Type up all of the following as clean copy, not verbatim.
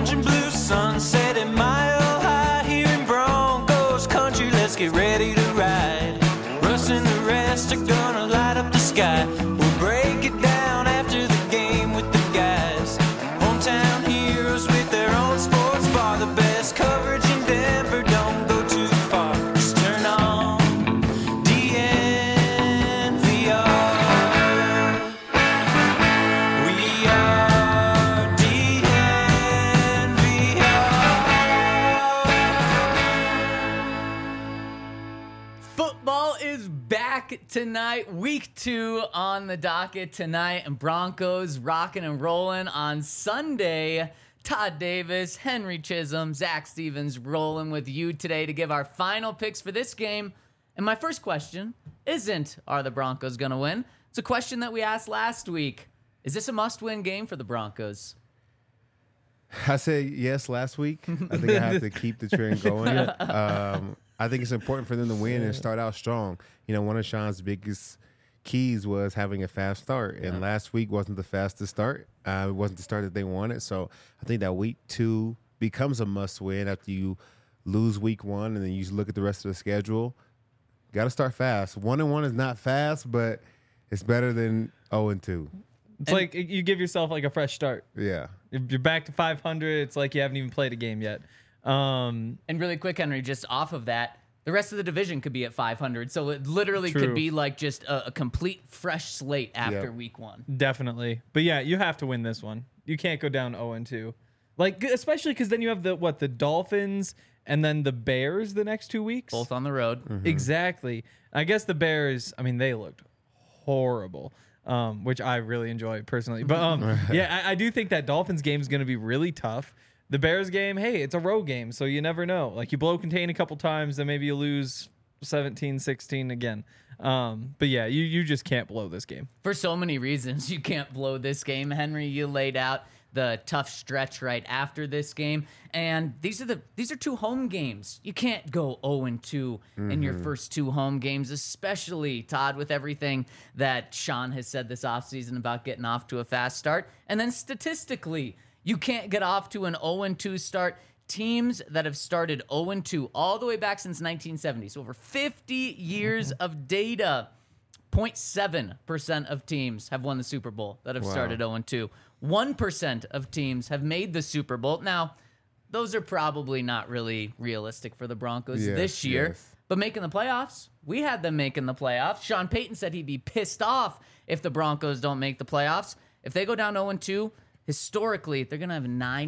orange and blue sunset at Mile High here in Broncos country. Let's get ready to ride. Russ and the rest are gonna light up the sky. We'll break it down after the game with the guys. Hometown heroes with their own sports bar. The best coverage in Denver, don't go too far. Just turn on DNVR. We are DNVR. Football is back tonight. Week 2 on the docket tonight, and Broncos rocking and rolling on Sunday. Todd Davis, Henry Chisholm, Zach Stevens rolling with you today to give our final picks for this game. And my first question isn't, are the Broncos going to win? It's a question that we asked last week. Is this a must-win game for the Broncos? I said yes last week. I think I have to keep the trend going. I think it's important for them to win and start out strong. You know, one of Sean's biggest keys was having a fast start, and last week wasn't the fastest start. It wasn't the start that they wanted. So I think that week 2 becomes a must-win after you lose week 1, and then you look at the rest of the schedule. Got to start fast. 1-1 is not fast, but it's better than 0-2. It's like you give yourself like a fresh start. Yeah. If you're back to 500, it's like you haven't even played a game yet. And really quick, Henry, just off of that, the rest of the division could be at 500. So it literally True. could be like just a complete fresh slate after Yep. week 1. Definitely. But yeah, you have to win this one. You can't go down 0-2. Like, especially because then you have the Dolphins and then the Bears the next 2 weeks. Both on the road. Mm-hmm. Exactly. I guess the Bears, I mean, they looked horrible, which I really enjoy personally. But yeah, I do think that Dolphins game is going to be really tough. The Bears game, hey, it's a road game, so you never know. Like, you blow contain a couple times, then maybe you lose 17-16 again. But yeah, you just can't blow this game. For so many reasons, you can't blow this game. Henry, you laid out the tough stretch right after this game. And these are 2 home games. You can't go 0-2 in your first 2 home games, especially, Todd, with everything that Sean has said this offseason about getting off to a fast start. And then statistically, you can't get off to an 0-2 start. Teams that have started 0-2 all the way back since 1970, so over 50 years of data, 0.7% of teams have won the Super Bowl that have started 0-2. 1% of teams have made the Super Bowl. Now, those are probably not really realistic for the Broncos this year. Yes. But making the playoffs, we had them making the playoffs. Sean Payton said he'd be pissed off if the Broncos don't make the playoffs. If they go down 0-2, historically, they're going to have a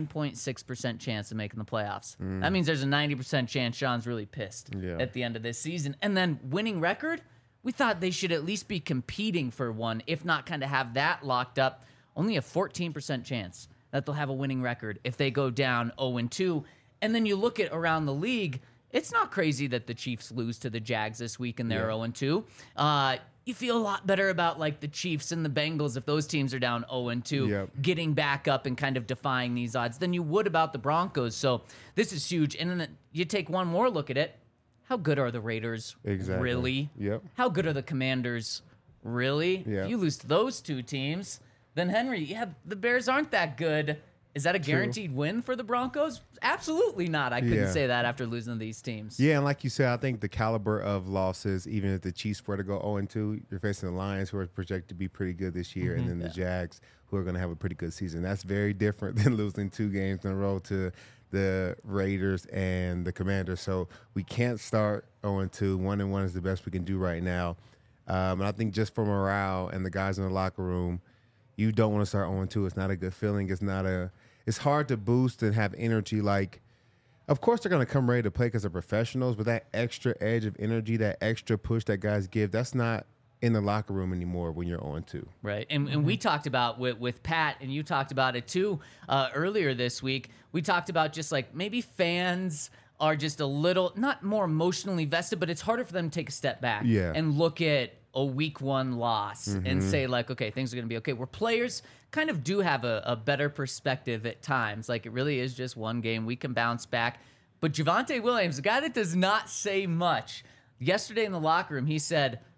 9.6% chance of making the playoffs. That means there's a 90% chance Sean's really pissed at the end of this season. And then winning record, we thought they should at least be competing for one, if not kind of have that locked up. Only a 14% chance that they'll have a winning record if they go down 0-2. And then you look at around the league, it's not crazy that the Chiefs lose to the Jags this week and they're 0-2. You feel a lot better about like the Chiefs and the Bengals if those teams are down 0-2, getting back up and kind of defying these odds than you would about the Broncos. So this is huge. And then you take one more look at it. How good are the Raiders? Exactly. Really? Yep. How good are the Commanders? Really? Yeah. If you lose to those 2 teams, then Henry, the Bears aren't that good. Is that a guaranteed win for the Broncos? Absolutely not. I couldn't say that after losing to these teams. Yeah, and like you said, I think the caliber of losses, even if the Chiefs were to go 0-2, you're facing the Lions, who are projected to be pretty good this year, and then the Jags, who are going to have a pretty good season. That's very different than losing 2 games in a row to the Raiders and the Commanders. So we can't start 0-2. 1-1 is the best we can do right now. And I think just for morale and the guys in the locker room, you don't want to start 0-2. It's not a good feeling. It's hard to boost and have energy. Like, of course they're going to come ready to play because they're professionals, but that extra edge of energy, that extra push that guys give, that's not in the locker room anymore when you're 0-2. Right. And we talked about with Pat, and you talked about it too earlier this week. We talked about just like maybe fans are just a little, not more emotionally vested, but it's harder for them to take a step back and look at a week 1 loss and say like, okay, things are going to be okay. Where players kind of do have a better perspective at times. Like, it really is just one game. We can bounce back. But Javonte Williams, a guy that does not say much, yesterday in the locker room, he said,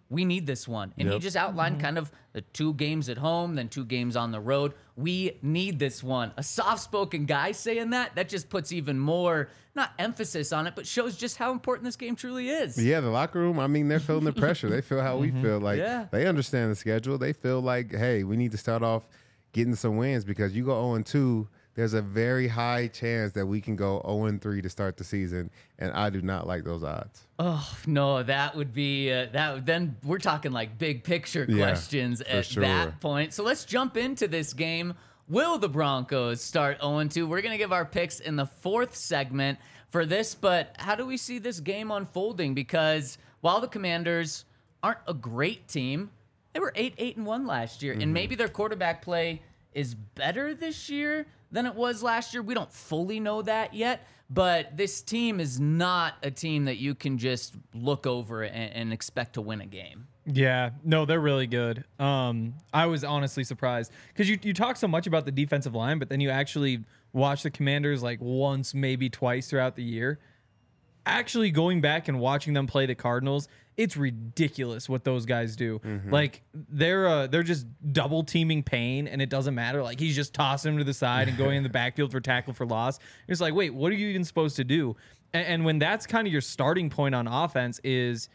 we need this one. And he just outlined kind of the 2 games at home, then 2 games on the road. We need this one. A soft-spoken guy saying that just puts even more, not emphasis on it, but shows just how important this game truly is. Yeah, the locker room, I mean, they're feeling the pressure. They feel how we feel. Like, they understand the schedule. They feel like, hey, we need to start off getting some wins because you go 0-2, there's a very high chance that we can go 0-3 to start the season, and I do not like those odds. Oh, no, that would be then we're talking like big picture questions at that point. So let's jump into this game. Will the Broncos start 0-2? We're going to give our picks in the 4th segment for this, but how do we see this game unfolding? Because while the Commanders aren't a great team, they were 8-1 last year, and maybe their quarterback play is better this year than it was last year. We don't fully know that yet, but this team is not a team that you can just look over and expect to win a game. Yeah, no, they're really good. I was honestly surprised because you talk so much about the defensive line, but then you actually watch the Commanders like once, maybe twice throughout the year. Actually going back and watching them play the Cardinals, it's ridiculous what those guys do. Like they're just double teaming Payne, and it doesn't matter. Like he's just tossing him to the side and going in the backfield for tackle for loss. It's like, wait, what are you even supposed to do? And when that's kind of your starting point on offense is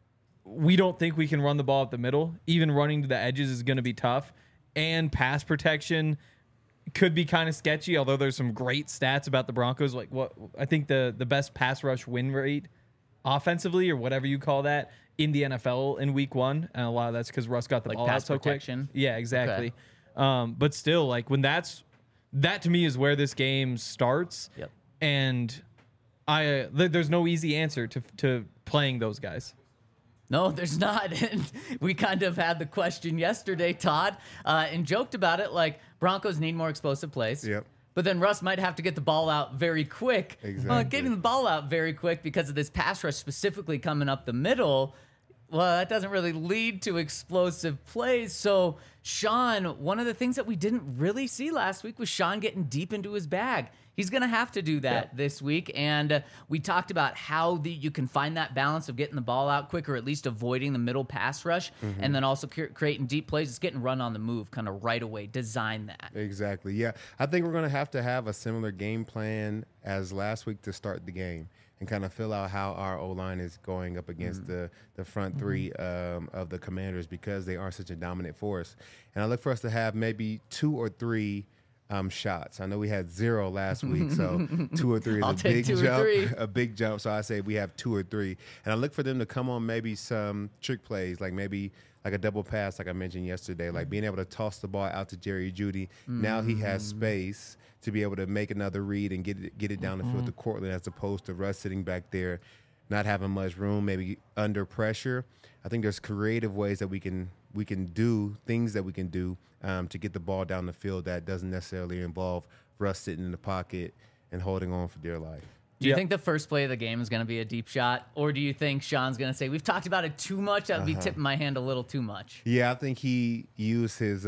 we don't think we can run the ball up the middle. Even running to the edges is going to be tough, and pass protection could be kind of sketchy. Although there's some great stats about the Broncos, like what I think the best pass rush win rate offensively or whatever you call that in the NFL in week 1, and a lot of that's because Russ got the ball out so quick. Yeah, exactly. Okay. But still, like when that to me is where this game starts. Yep. And there's no easy answer to playing those guys. No, there's not. And we kind of had the question yesterday, Todd, and joked about it like Broncos need more explosive plays. Yep. But then Russ might have to get the ball out very quick. Exactly. Getting the ball out very quick because of this pass rush specifically coming up the middle, well, that doesn't really lead to explosive plays. So, Sean, one of the things that we didn't really see last week was Sean getting deep into his bag. He's going to have to do that this week. And we talked about how you can find that balance of getting the ball out quick or at least avoiding the middle pass rush and then also creating deep plays. It's getting run on the move kind of right away. Design that. Exactly. Yeah. I think we're going to have a similar game plan as last week to start the game and kind of fill out how our O-line is going up against the front three of the Commanders because they are such a dominant force. And I look for us to have maybe 2 or 3 shots. I know we had 0 last week, so 2 or 3 is a big jump. A big jump. So I say we have 2 or 3, and I look for them to come on maybe some trick plays, like maybe like a double pass, like I mentioned yesterday, like being able to toss the ball out to Jerry Jeudy. Now he has space to be able to make another read and get it down the field to Courtland, as opposed to Russ sitting back there, not having much room, maybe under pressure. I think there's creative ways that we can do things that we can do to get the ball down the field that doesn't necessarily involve Russ sitting in the pocket and holding on for dear life. Do you think the first play of the game is going to be a deep shot, or do you think Sean's going to say, we've talked about it too much, I'd be tipping my hand a little too much? Yeah, I think he used his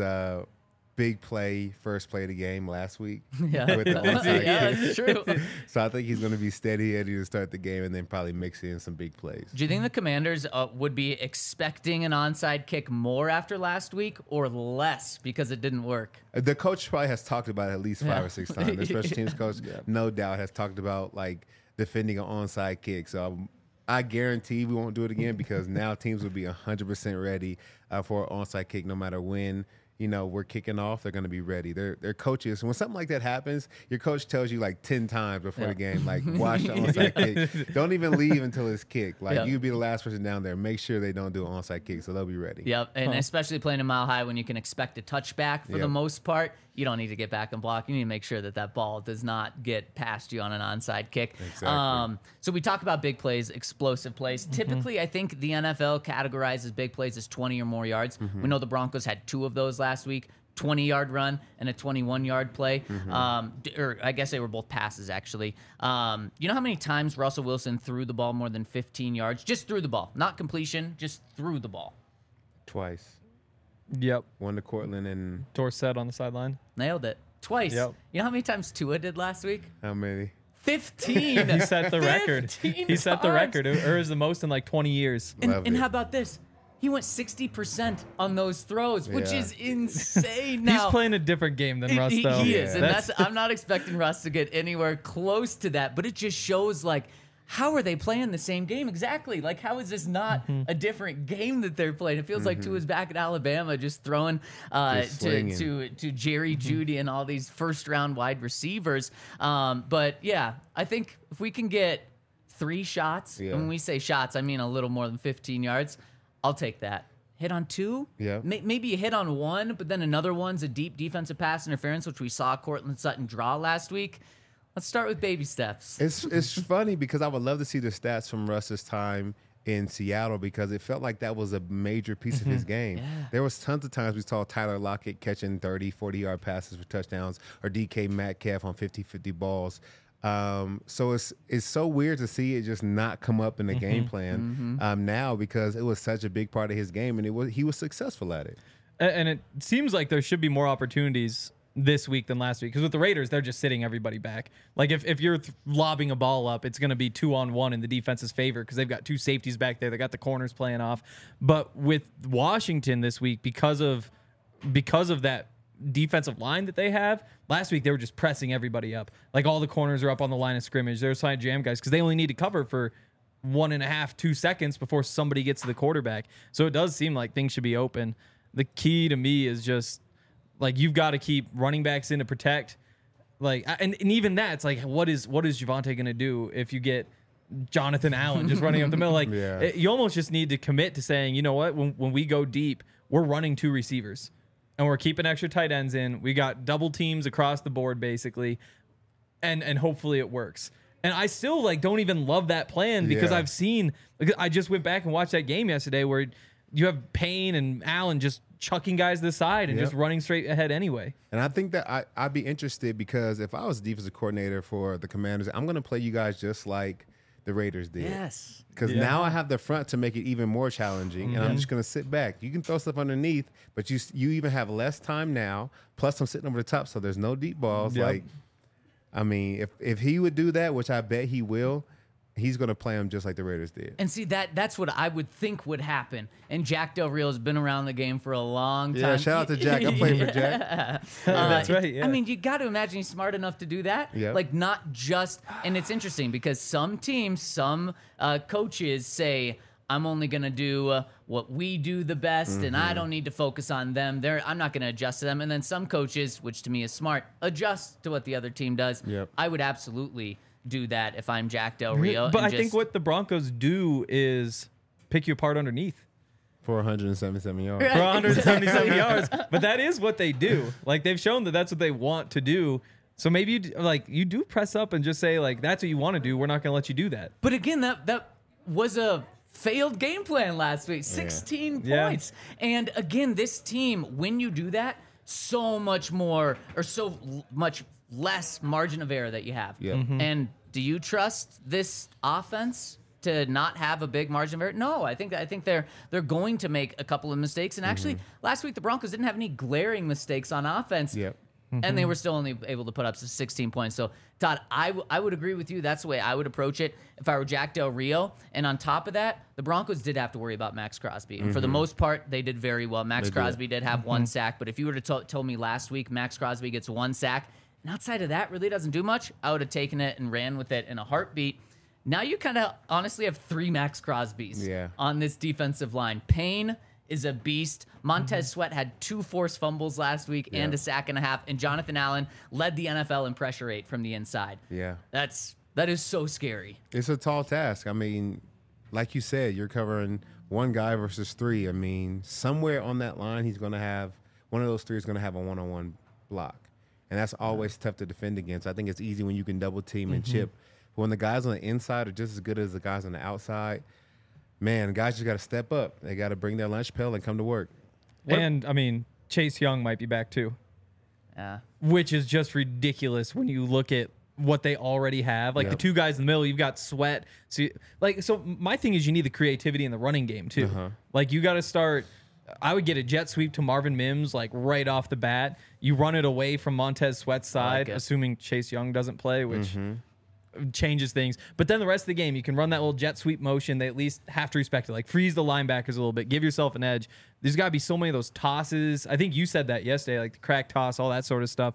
big play, first play of the game last week. Yeah, with the onside yeah, kick. that's true. So I think he's going to be steady-headed to start the game and then probably mix in some big plays. Do you think the Commanders would be expecting an onside kick more after last week or less because it didn't work? The coach probably has talked about it at least 5 or 6 times. The special teams coach, no doubt, has talked about like defending an onside kick. So I guarantee we won't do it again because now teams will be 100% ready for an onside kick no matter when. We're kicking off, they're going to be ready. They're coaches. When something like that happens, your coach tells you like 10 times before the game, like, watch the onside kick. Don't even leave until it's kicked. Like, you be the last person down there. Make sure they don't do an onside kick, so they'll be ready. Yep, and especially playing a Mile High when you can expect a touchback for the most part, you don't need to get back and block. You need to make sure that ball does not get past you on an onside kick. Exactly. So we talk about big plays, explosive plays. Typically, I think the NFL categorizes big plays as 20 or more yards. We know the Broncos had 2 of those last week. 20-yard run and a 21-yard play. Or I guess they were both passes, actually. You know how many times Russell Wilson threw the ball more than 15 yards? Just threw the ball. Not completion, just threw the ball. Twice. Yep. One to Courtland and Dorsett on the sideline. Nailed it. Twice. Yep. You know how many times Tua did last week? how many? 15. He set the record. He set the record. Or is the most in like 20 years. Loved And it. how about this? He went 60% on those throws, which Yeah. is insane. Now, He's playing a different game than Russ, though. He is, and That's- I'm not expecting Russ to get anywhere close to that. But it just shows like, how are they playing the same game exactly? Like, how is this not a different game that they're playing? It feels like Tua's back at Alabama, just throwing Just to slinging. Jerry Jeudy and all these first round wide receivers. But yeah, I think if we can get 3 shots, Yeah. and when we say shots, I mean a little more than 15 yards. I'll take that. Hit on 2, Yeah. Maybe you hit on 1, but then another one's a deep defensive pass interference, which we saw Cortland Sutton draw last week. Let's start with baby steps. It's funny because I would love to see the stats from Russ's time in Seattle because it felt like that was a major piece of his game. There was tons of times we saw Tyler Lockett catching 30, 40-yard passes for touchdowns or DK Metcalf on 50-50 balls. So it's so weird to see it just not come up in the game plan now because it was such a big part of his game and he was successful at it. And it seems like there should be more opportunities this week than last week because with the Raiders, they're just sitting everybody back. Like if you're lobbing a ball up, it's going to be 2-on-1 in the defense's favor because they've got 2 safeties back there. They got the corners playing off. But with Washington this week, because of that defensive line that they have, last week they were just pressing everybody up. Like all the corners are up on the line of scrimmage. They're assigned jam guys because they only need to cover for 1.5, 2 seconds before somebody gets to the quarterback. So it does seem like things should be open. The key to me is just like you've got to keep running backs in to protect. Like and even that, it's like what is Javonte gonna do if you get Jonathan Allen just running up the middle? Like you almost just need to commit to saying, you know what, when we go deep, we're running 2 receivers and we're keeping extra tight ends in. We got double teams across the board basically, and hopefully it works. And I still like don't even love that plan because I've seen. I just went back and watched that game yesterday where you have Payne and Allen just chucking guys to the side and just running straight ahead anyway. And I think that I'd be interested because if I was defensive coordinator for the Commanders, I'm going to play you guys just like the Raiders did. Yes. Because now I have the front to make it even more challenging, and I'm just going to sit back. You can throw stuff underneath, but you even have less time now, plus I'm sitting over the top, so there's no deep balls. Yep. Like, I mean, if he would do that, which I bet he will, he's going to play them just like the Raiders did. And see, that's what I would think would happen. And Jack Del Rio has been around the game for a long time. Yeah, shout out to Jack. I played for Jack. That's right. Yeah. I mean, you got to imagine he's smart enough to do that. Yep. Like, not just, and it's interesting because some teams, some coaches say, I'm only going to do what we do the best, and I don't need to focus on them. I'm not going to adjust to them. And then some coaches, which to me is smart, adjust to what the other team does. Yep. I would absolutely do that if I'm Jack Del Rio. But and I think what the Broncos do is pick you apart underneath. For 177 yards. For 177 yards. But that is what they do. Like they've shown that that's what they want to do. So maybe you do press up and just say like that's what you want to do. We're not going to let you do that. But again, that was a failed game plan last week. 16 points. And again, this team, when you do that, so much more or so much less margin of error that you have. Yeah. And do you trust this offense to not have a big margin of error? No, I think they're going to make a couple of mistakes. And actually, last week the Broncos didn't have any glaring mistakes on offense. Yep. And they were still only able to put up 16 points. So, Todd, I would agree with you. That's the way I would approach it if I were Jack Del Rio. And on top of that, the Broncos did have to worry about Max Crosby. And for the most part, they did very well. Max Crosby did have 1 sack. But if you were to told me last week Max Crosby gets 1 sack, and outside of that really doesn't do much, I would have taken it and ran with it in a heartbeat. Now you kind of honestly have 3 Max Crosbys on this defensive line. Payne is a beast. Montez Sweat had 2 forced fumbles last week and a sack and a half, and Jonathan Allen led the NFL in pressure rate from the inside. Yeah. That is so scary. It's a tall task. I mean, like you said, you're covering 1 guy versus 3. I mean, somewhere on that line, he's going to have one of those 3 is going to have a one-on-one block. And that's always tough to defend against. I think it's easy when you can double team and chip. But when the guys on the inside are just as good as the guys on the outside, man, guys just got to step up. They got to bring their lunch pail and come to work. And, I mean, Chase Young might be back too. Yeah. Which is just ridiculous when you look at what they already have. Like the 2 guys in the middle, you've got Sweat. So my thing is you need the creativity in the running game too. Like you got to start. I would get a jet sweep to Marvin Mims like right off the bat. You run it away from Montez Sweat's side, assuming Chase Young doesn't play, which changes things. But then the rest of the game, you can run that little jet sweep motion. They at least have to respect it. Like freeze the linebackers a little bit, give yourself an edge. There's got to be so many of those tosses. I think you said that yesterday, like the crack toss, all that sort of stuff.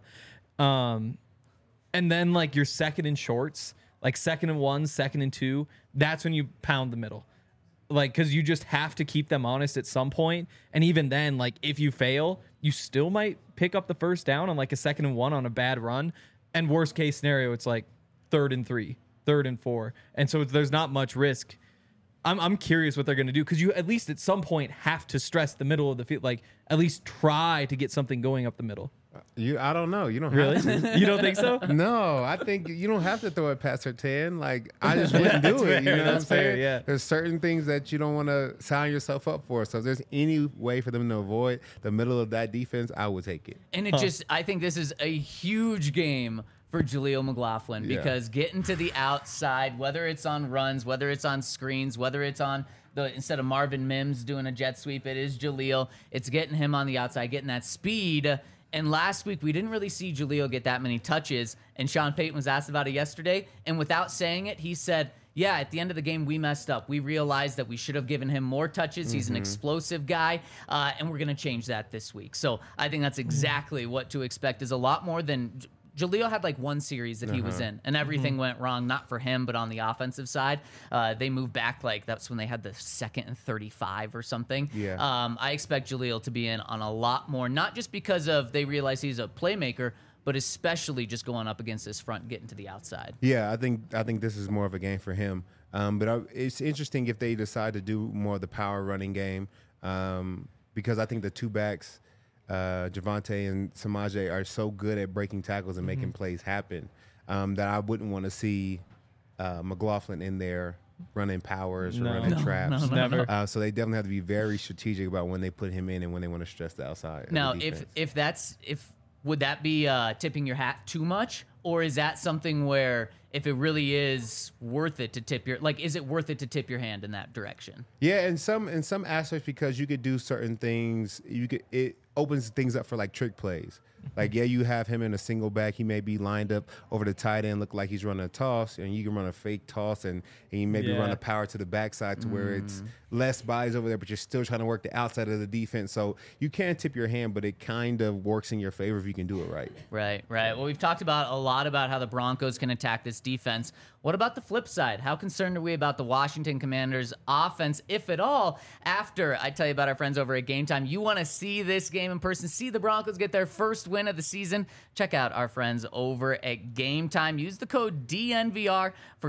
And then like your second and shorts, like 2nd and 1, 2nd and 2, that's when you pound the middle. Like, because you just have to keep them honest at some point. And even then, like, if you fail, you still might pick up the first down on like a 2nd and 1 on a bad run. And worst case scenario, it's like 3rd and 3, 3rd and 4. And so there's not much risk. I'm curious what they're going to do, because you at least at some point have to stress the middle of the field. Like, at least try to get something going up the middle. I don't know. You don't Really? have to. You don't think so? No, I think you don't have to throw it past her 10. Like, I just wouldn't do it. You know what I'm That's fair, saying? yeah. There's certain things that you don't want to sign yourself up for. So if there's any way for them to avoid the middle of that defense, I would take it. And I think this is a huge game for Jaleel McLaughlin, because getting to the outside, whether it's on runs, whether it's on screens, whether it's on instead of Marvin Mims doing a jet sweep, it is Jaleel. It's getting him on the outside, getting that speed. And last week, we didn't really see Jaleel get that many touches. And Sean Payton was asked about it yesterday. And without saying it, he said, yeah, at the end of the game, we messed up. We realized that we should have given him more touches. He's an explosive guy, and we're going to change that this week. So I think that's exactly what to expect, is a lot more than... Jaleel had like one series that he was in, and everything went wrong, not for him, but on the offensive side. They moved back, like that's when they had the 2nd and 35 or something. Yeah. I expect Jaleel to be in on a lot more, not just because of they realize he's a playmaker, but especially just going up against this front, getting to the outside. Yeah, I think this is more of a game for him. It's interesting if they decide to do more of the power running game, because I think the two backs, Javonte and Samaje, are so good at breaking tackles and making plays happen that I wouldn't want to see McLaughlin in there running powers or running traps. Never. So they definitely have to be very strategic about when they put him in and when they want to stress the outside. Now, of the defense. would that be tipping your hat too much, or is that something where if it really is worth it to tip your, like, is it worth it to tip your hand in that direction? Yeah, in some aspects, because you could do certain things. It opens things up for like trick plays. Like, yeah, you have him in a single back. He may be lined up over the tight end, look like he's running a toss, and you can run a fake toss, and you maybe run a power to the backside to where it's less bodies over there, but you're still trying to work the outside of the defense. So you can tip your hand, but it kind of works in your favor if you can do it right. Right. Well, we've talked about a lot about how the Broncos can attack this defense. What about the flip side? How concerned are we about the Washington Commanders offense, if at all, after I tell you about our friends over at Game Time? You want to see this game in person, see the Broncos get their first win of the season? Check out our friends over at Game Time. Use the code DNVR for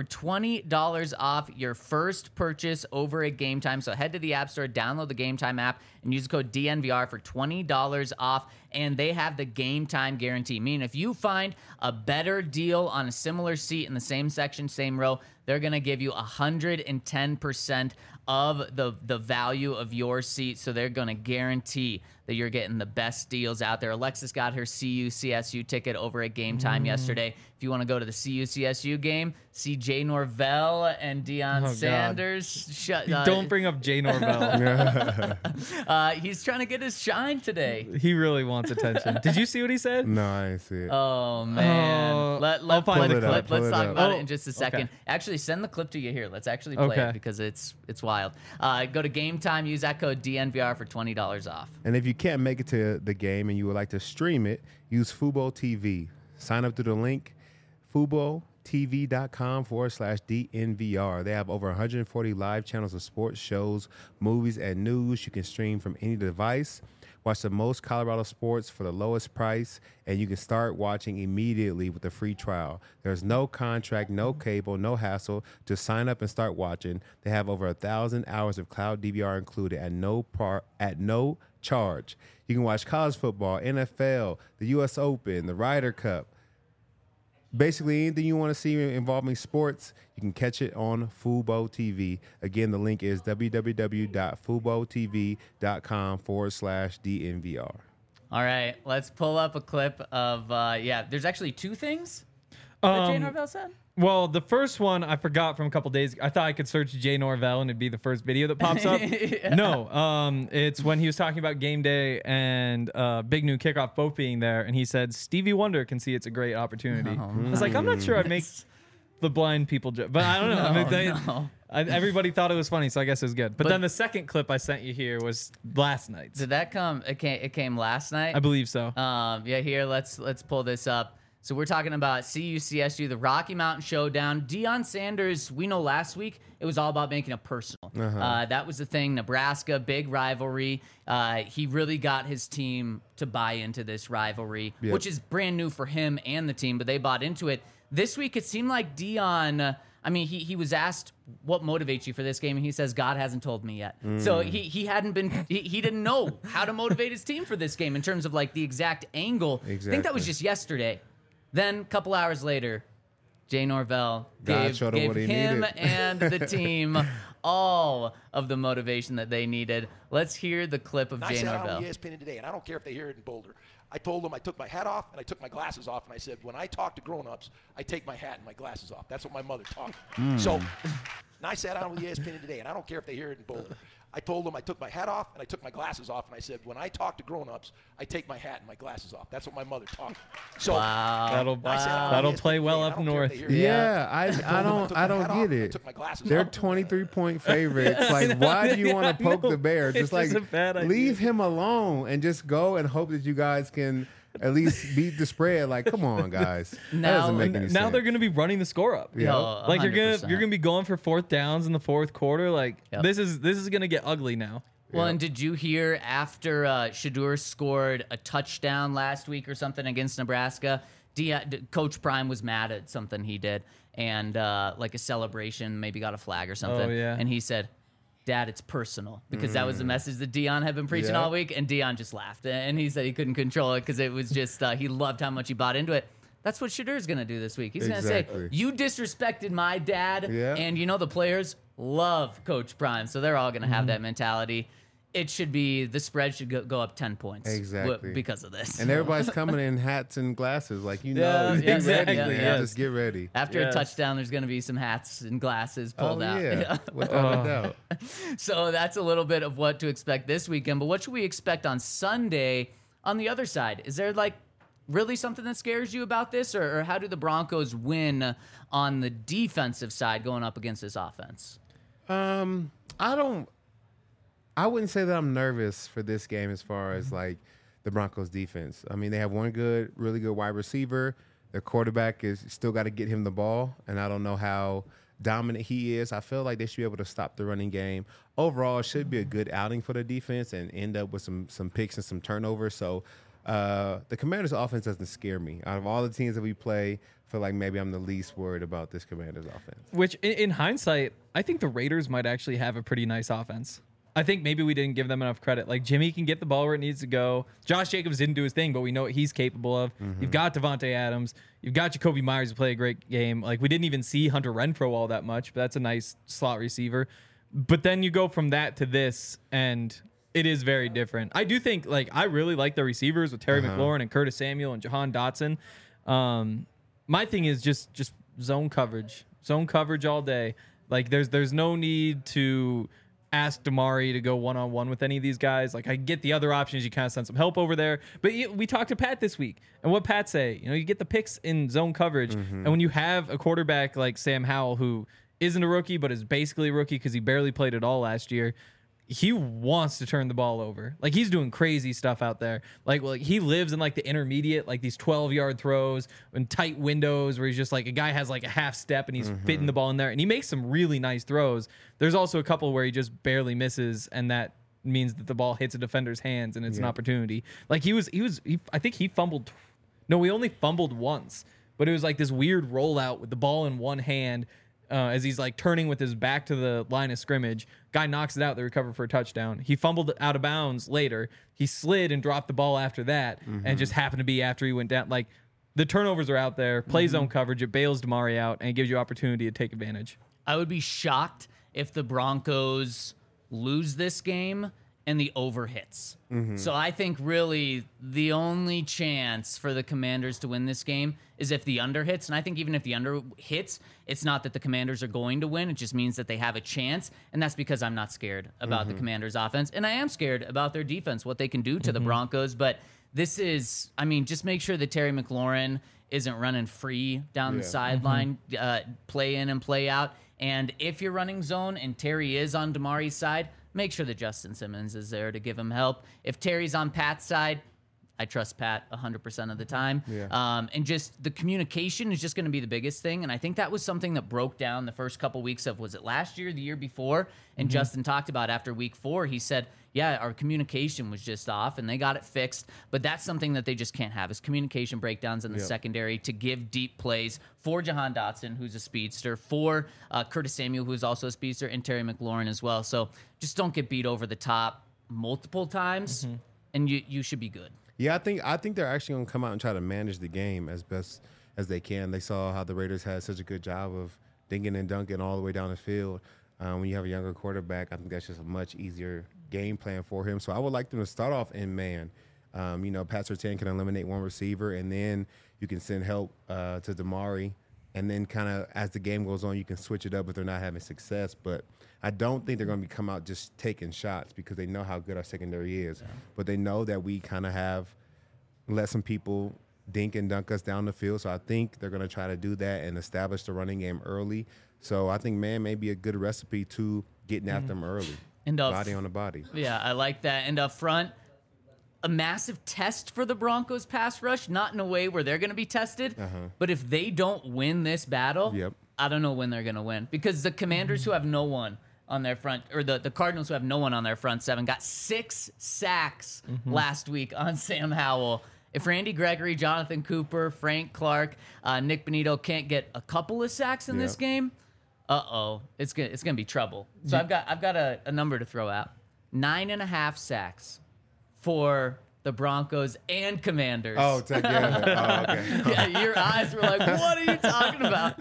$20 off your first purchase over at Game Time. So head to the App Store, download the Game Time app, and use the code DNVR for $20 off. And they have the Game Time guarantee, meaning if you find a better deal on a similar seat in the same section, same row, they're going to give you 110% of the value of your seat. So they're going to guarantee that you're getting the best deals out there. Alexis got her CU-CSU ticket over at Game Time yesterday. If you want to go to the CU-CSU game, see Jay Norvell and Deion Sanders. Don't bring up Jay Norvell. He's trying to get his shine today. He really wants attention. Did you see what he said? No, I didn't see it. Oh, man. Let's find play the the clip. clip. Let's Pull it talk up. about it in just a second. Okay. Actually, send the clip to you here. Let's actually play Okay. it because it's wild. Go to Game Time. Use that code DNVR for $20 off. And if you can't make it to the game and you would like to stream it, use Fubo TV. Sign up through the link, FuboTV.com/DNVR. They have over 140 live channels of sports, shows, movies, and news. You can stream from any device. Watch the most Colorado sports for the lowest price, and you can start watching immediately with a free trial. There's no contract, no cable, no hassle. Just sign up and start watching. They have over 1,000 hours of cloud DVR included at no charge. You can watch college football, NFL, the U.S. Open, the Ryder Cup. Basically, anything you want to see involving sports, you can catch it on Fubo TV. Again, the link is www.FuboTV.com/DNVR. All right, let's pull up a clip of, there's actually two things that Jay Norvell said. Well, the first one I forgot from a couple days ago. I thought I could search Jay Norvell and it'd be the first video that pops up. No, it's when he was talking about game day and Big New Kickoff both being there, and he said Stevie Wonder can see it's a great opportunity. I was like, I'm not sure I'd make the blind people joke. But I don't know. I mean, No. everybody thought it was funny, so I guess it was good. But then the second clip I sent you here was last night's. Did that come? It came last night. I believe so. Yeah, here, let's pull this up. So we're talking about CU-CSU, the Rocky Mountain Showdown. Deion Sanders, we know last week it was all about making it personal. That was the thing. Nebraska, big rivalry. He really got his team to buy into this rivalry, which is brand new for him and the team, but they bought into it. This week, it seemed like Deion, I mean, he was asked what motivates you for this game, and he says, God hasn't told me yet. So he hadn't been, he didn't know how to motivate his team for this game in terms of like the exact angle. I think that was just yesterday. Then a couple hours later, Jay Norvell gave him and the team all of the motivation that they needed. Let's hear the clip of Jay Norvell. I said on ESPN today, and I don't care if they hear it in Boulder. I told them I took my hat off and I took my glasses off, and I said, when I talk to grown-ups, I take my hat and my glasses off. That's what my mother taught me. So, and I sat on with ESPN today, and I don't care if they hear it in Boulder. I told them I took my hat off and I took my glasses off, and I said, when I talk to grown-ups, I take my hat and my glasses off. That's what my mother taught me. So That'll play well up north. Yeah, I don't get it. They're 23-point favorites. Like, why do you want to poke the bear? Just like leave him alone and just go and hope that you guys can at least beat the spread. Like, come on, guys. That doesn't make any sense. Now they're going to be running the score up. Yeah. Like you're gonna be going for fourth downs in the fourth quarter. Like this is going to get ugly now. Well, and did you hear after Shedeur scored a touchdown last week or something against Nebraska, Coach Prime was mad at something he did, and like a celebration, maybe got a flag or something. Oh, yeah. And he said, Dad, it's personal, because that was the message that Deion had been preaching all week, and Deion just laughed, and he said he couldn't control it because it was just he loved how much he bought into it. That's what Shadeur's going to do this week. He's going to say, you disrespected my dad, and the players love Coach Prime, so they're all going to have that mentality. It should be, the spread should go up 10 points because of this. And everybody's coming in hats and glasses, like exactly. Just get ready. After a touchdown, there's going to be some hats and glasses pulled out. Yeah, without a doubt. So that's a little bit of what to expect this weekend. But what should we expect on Sunday on the other side? Is there like really something that scares you about this, or how do the Broncos win on the defensive side going up against this offense? I wouldn't say that I'm nervous for this game as far as like the Broncos defense. I mean, they have one really good wide receiver. Their quarterback is still got to get him the ball, and I don't know how dominant he is. I feel like they should be able to stop the running game. Overall, it should be a good outing for the defense and end up with some picks and some turnovers. So the Commanders' offense doesn't scare me. Out of all the teams that we play, I feel like maybe I'm the least worried about this Commanders' offense. Which, in hindsight, I think the Raiders might actually have a pretty nice offense. I think maybe we didn't give them enough credit. Like, Jimmy can get the ball where it needs to go. Josh Jacobs didn't do his thing, but we know what he's capable of. You've got Devontae Adams. You've got Jacoby Myers, who play a great game. Like, we didn't even see Hunter Renfrow all that much, but that's a nice slot receiver. But then you go from that to this, and it is very different. I do think, like, I really like the receivers with Terry McLaurin and Curtis Samuel and Jahan Dotson. My thing is just zone coverage. Zone coverage all day. Like, there's no need to ask Damari to go one-on-one with any of these guys. Like, I get the other options. You kind of send some help over there. But we talked to Pat this week, and what Pat say? You get the picks in zone coverage, and when you have a quarterback like Sam Howell, who isn't a rookie but is basically a rookie because he barely played at all last year, he wants to turn the ball over. Like, he's doing crazy stuff out there. Like he lives in like the intermediate, like these 12-yard throws and tight windows where he's just like, a guy has like a half step and he's fitting the ball in there, and he makes some really nice throws. There's also a couple where he just barely misses, and that means that the ball hits a defender's hands and it's an opportunity. Like he I think he fumbled. No, he only fumbled once, but it was like this weird rollout with the ball in one hand. As he's like turning with his back to the line of scrimmage, guy knocks it out. They recover for a touchdown. He fumbled out of bounds later. He slid and dropped the ball after that, and just happened to be after he went down. Like, the turnovers are out there. Play zone coverage. It bails Damari out, and it gives you opportunity to take advantage. I would be shocked if the Broncos lose this game and the over hits. So I think really the only chance for the Commanders to win this game is if the under hits. And I think even if the under hits, it's not that the Commanders are going to win. It just means that they have a chance. And that's because I'm not scared about the Commanders' offense. And I am scared about their defense, what they can do to the Broncos. But this is, I mean, just make sure that Terry McLaurin isn't running free down the sideline, play in and play out. And if you're running zone and Terry is on Damari's side, make sure that Justin Simmons is there to give him help. If Terry's on Pat's side, I trust Pat 100% of the time. And just the communication is just going to be the biggest thing. And I think that was something that broke down the first couple weeks of, was it last year, the year before? And Justin talked about after week 4, he said, yeah, our communication was just off and they got it fixed. But that's something that they just can't have, is communication breakdowns in the secondary to give deep plays for Jahan Dotson, who's a speedster, for Curtis Samuel, who's also a speedster, and Terry McLaurin as well. So just don't get beat over the top multiple times and you should be good. Yeah, I think they're actually going to come out and try to manage the game as best as they can. They saw how the Raiders had such a good job of dinking and dunking all the way down the field. When you have a younger quarterback, I think that's just a much easier game plan for him. So I would like them to start off in man. Pat Surtain can eliminate one receiver, and then you can send help to Damari. And then kind of as the game goes on, you can switch it up if they're not having success. But I don't think they're going to come out just taking shots because they know how good our secondary is. Yeah. But they know that we kind of have let some people dink and dunk us down the field. So I think they're going to try to do that and establish the running game early. So I think man may be a good recipe to getting after them early. And body on the body. Yeah, I like that. And up front, a massive test for the Broncos pass rush, not in a way where they're going to be tested, but if they don't win this battle, I don't know when they're going to win. Because the Commanders who have no one on their front, or the Cardinals who have no one on their front seven, got 6 sacks last week on Sam Howell. If Randy Gregory, Jonathan Cooper, Frank Clark, Nick Bonito can't get a couple of sacks in this game, it's gonna be trouble. So I've got a number to throw out: 9.5 sacks for the Broncos and Commanders. Oh, together. Okay. Yeah, your eyes were like, what are you talking about?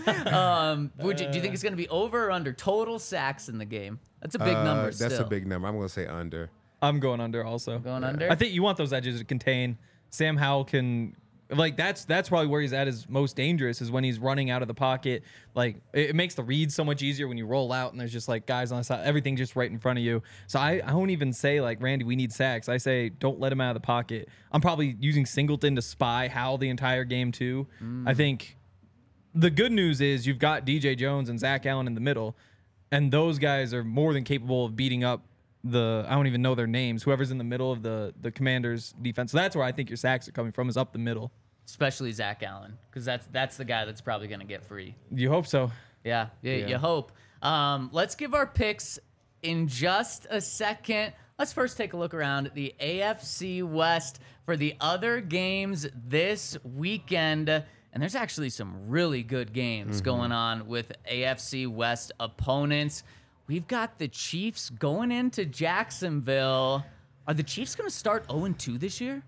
Do you think it's going to be over or under total sacks in the game? That's a big number still. That's a big number. I'm going to say under. I'm going under also. Going under? I think you want those edges to contain. Sam Howell can... Like, that's probably where he's at his most dangerous, is when he's running out of the pocket. Like, it makes the read so much easier when you roll out and there's just, like, guys on the side. Everything just right in front of you. So I won't even say, like, Randy, we need sacks. I say, don't let him out of the pocket. I'm probably using Singleton to spy Howell the entire game, too. I think the good news is you've got DJ Jones and Zach Allen in the middle, and those guys are more than capable of beating up I don't even know their names, whoever's in the middle of the Commanders defense. So that's where I think your sacks are coming from, is up the middle. Especially Zach Allen, because that's the guy that's probably going to get free. You hope so. Yeah, you hope. Let's give our picks in just a second. Let's first take a look around the AFC West for the other games this weekend. And there's actually some really good games going on with AFC West opponents. We've got the Chiefs going into Jacksonville. Are the Chiefs going to start 0-2 this year?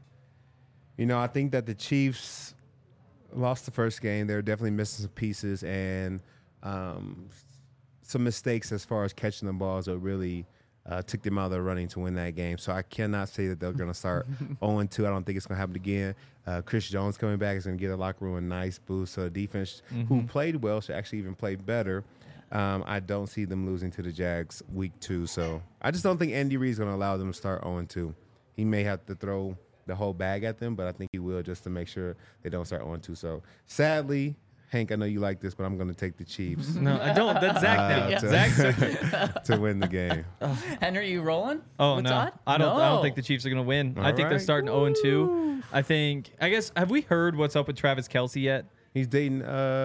I think that the Chiefs lost the first game. They're definitely missing some pieces and some mistakes as far as catching the balls that really took them out of the running to win that game. So I cannot say that they're going to start 0-2. I don't think it's going to happen again. Chris Jones coming back is going to give the locker room a nice boost. So the defense, who played well, should actually even play better. I don't see them losing to the Jags week 2. So I just don't think Andy Reid's going to allow them to start 0-2. He may have to throw the whole bag at them, but I think he will, just to make sure they don't start 0-2. So sadly, Hank, I know you like this, but I'm going to take the Chiefs. No, I don't. That's Zach now. Zach to win the game. Henry, you rolling? Oh, with no. Todd? I don't think the Chiefs are going to win. I think they're starting 0-2. I guess, have we heard what's up with Travis Kelce yet? He's dating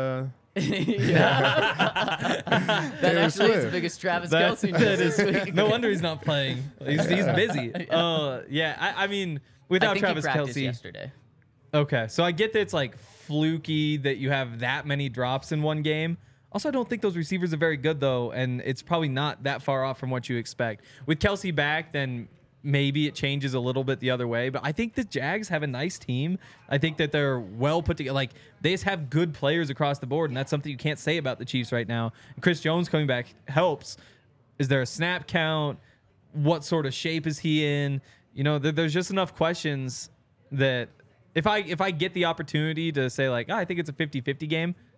That actually is the biggest Travis Kelce news this week. No wonder he's not playing. He's busy. I mean, without Travis Kelce yesterday. Okay, so I get that it's like fluky that you have that many drops in one game. Also, I don't think those receivers are very good, though, and it's probably not that far off from what you expect. With Kelce back, then maybe it changes a little bit the other way, but I think the Jags have a nice team. I think that they're well put together. Like, they just have good players across the board, and that's something you can't say about the Chiefs right now. And Chris Jones coming back helps. Is there a snap count? What sort of shape is he in? There's just enough questions that if I get the opportunity to say, like, I think it's a 50-50 game,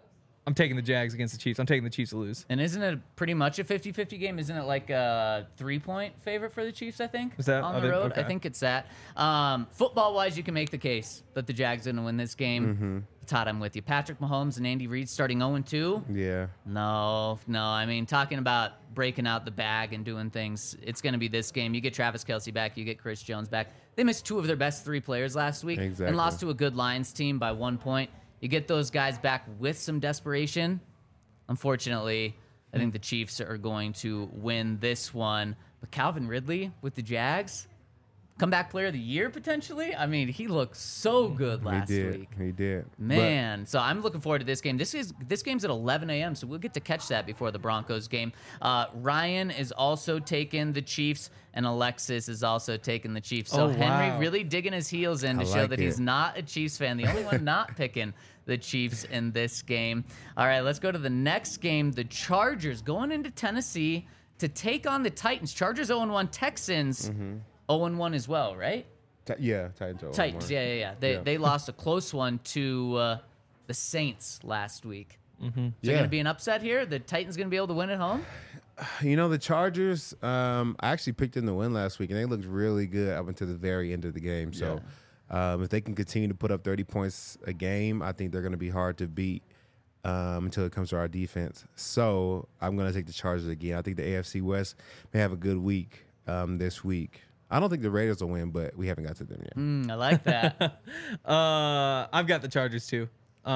I'm taking the Jags against the Chiefs. I'm taking the Chiefs to lose. And isn't it pretty much a 50-50 game? Isn't it like a 3-point favorite for the Chiefs, I think? Is that- on are the they- road? okay. I think it's that. Football-wise, you can make the case that the Jags are going to win this game. Todd, I'm with you. Patrick Mahomes and Andy Reid starting 0-2. Yeah. No. I mean, talking about breaking out the bag and doing things, it's going to be this game. You get Travis Kelce back. You get Chris Jones back. They missed 2 of their best 3 players last week Exactly. and lost to a good Lions team by 1 point. You get those guys back with some desperation. Unfortunately, I think the Chiefs are going to win this one. But Calvin Ridley with the Jags, comeback player of the year potentially. I mean, he looked so good last week. He did. Man, so I'm looking forward to this game. This game's at 11 a.m., so we'll get to catch that before the Broncos game. Ryan is also taking the Chiefs, and Alexis is also taking the Chiefs. So Oh, Henry wow. really digging his heels in to show like that he's it. not a Chiefs fan. The only one not picking the Chiefs in this game. All right, let's go to the next game. The Chargers going into Tennessee to take on the Titans. Chargers 0-1, Texans 0-1 as well, right? Yeah, Titans. are Titans, 1-1. yeah. They lost a close one to the Saints last week. Is there Yeah. going to be an upset here? The Titans going to be able to win at home? You know, the Chargers, I actually picked them to win last week, and they looked really good up until the very end of the game. So if they can continue to put up 30 points a game, I think they're going to be hard to beat until it comes to our defense. So I'm going to take the Chargers again. I think the AFC West may have a good week this week. I don't think the Raiders will win, but we haven't got to them yet. I like that. I've got the Chargers too.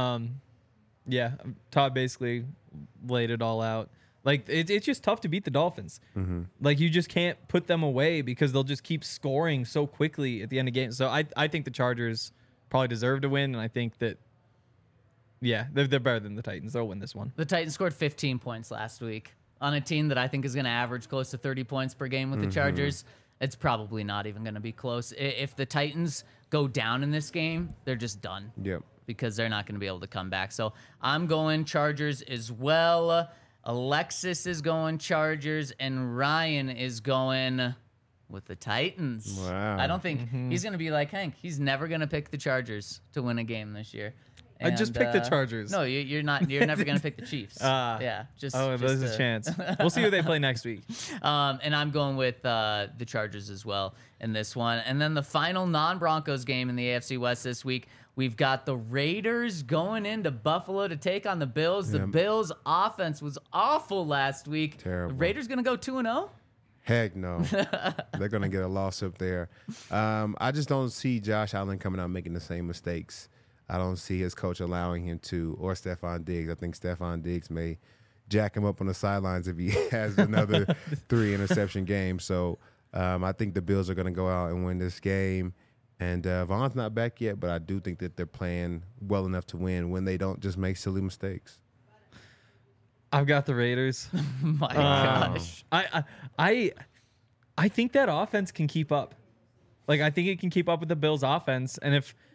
Yeah, Todd basically laid it all out. Like it's just tough to beat the Dolphins. Like you just can't put them away because they'll just keep scoring so quickly at the end of games. So I think the Chargers probably deserve to win, and I think that they're better than the Titans. They'll win this one. The Titans scored 15 points last week on a team that I think is going to average close to 30 points per game with the Chargers. It's probably not even going to be close. If the Titans go down in this game, they're just done. Yep. Because they're not going to be able to come back. So I'm going Chargers as well. Alexis is going Chargers, and Ryan is going with the Titans. Wow. I don't think he's going to be like Hank. He's never going to pick the Chargers to win a game this year. I just picked the Chargers. No, you're not. You're never going to pick the Chiefs. Yeah. Just. There's a chance. We'll see who they play next week. And I'm going with the Chargers as well in this one. And then the final non-Broncos game in the AFC West this week, we've got the Raiders going into Buffalo to take on the Bills. The Bills' offense was awful last week. Terrible. The Raiders going to go 2-0? Heck no. They're going to get a loss up there. I just don't see Josh Allen coming out making the same mistakes. I don't see his coach allowing him to, or Stephon Diggs. I think Stephon Diggs may jack him up on the sidelines if he has another 3 interception game. So I think the Bills are going to go out and win this game. And Vaughn's not back yet, but I do think that they're playing well enough to win when they don't just make silly mistakes. I've got the Raiders. My gosh. I think that offense can keep up. Like I think it can keep up with the Bills' offense. And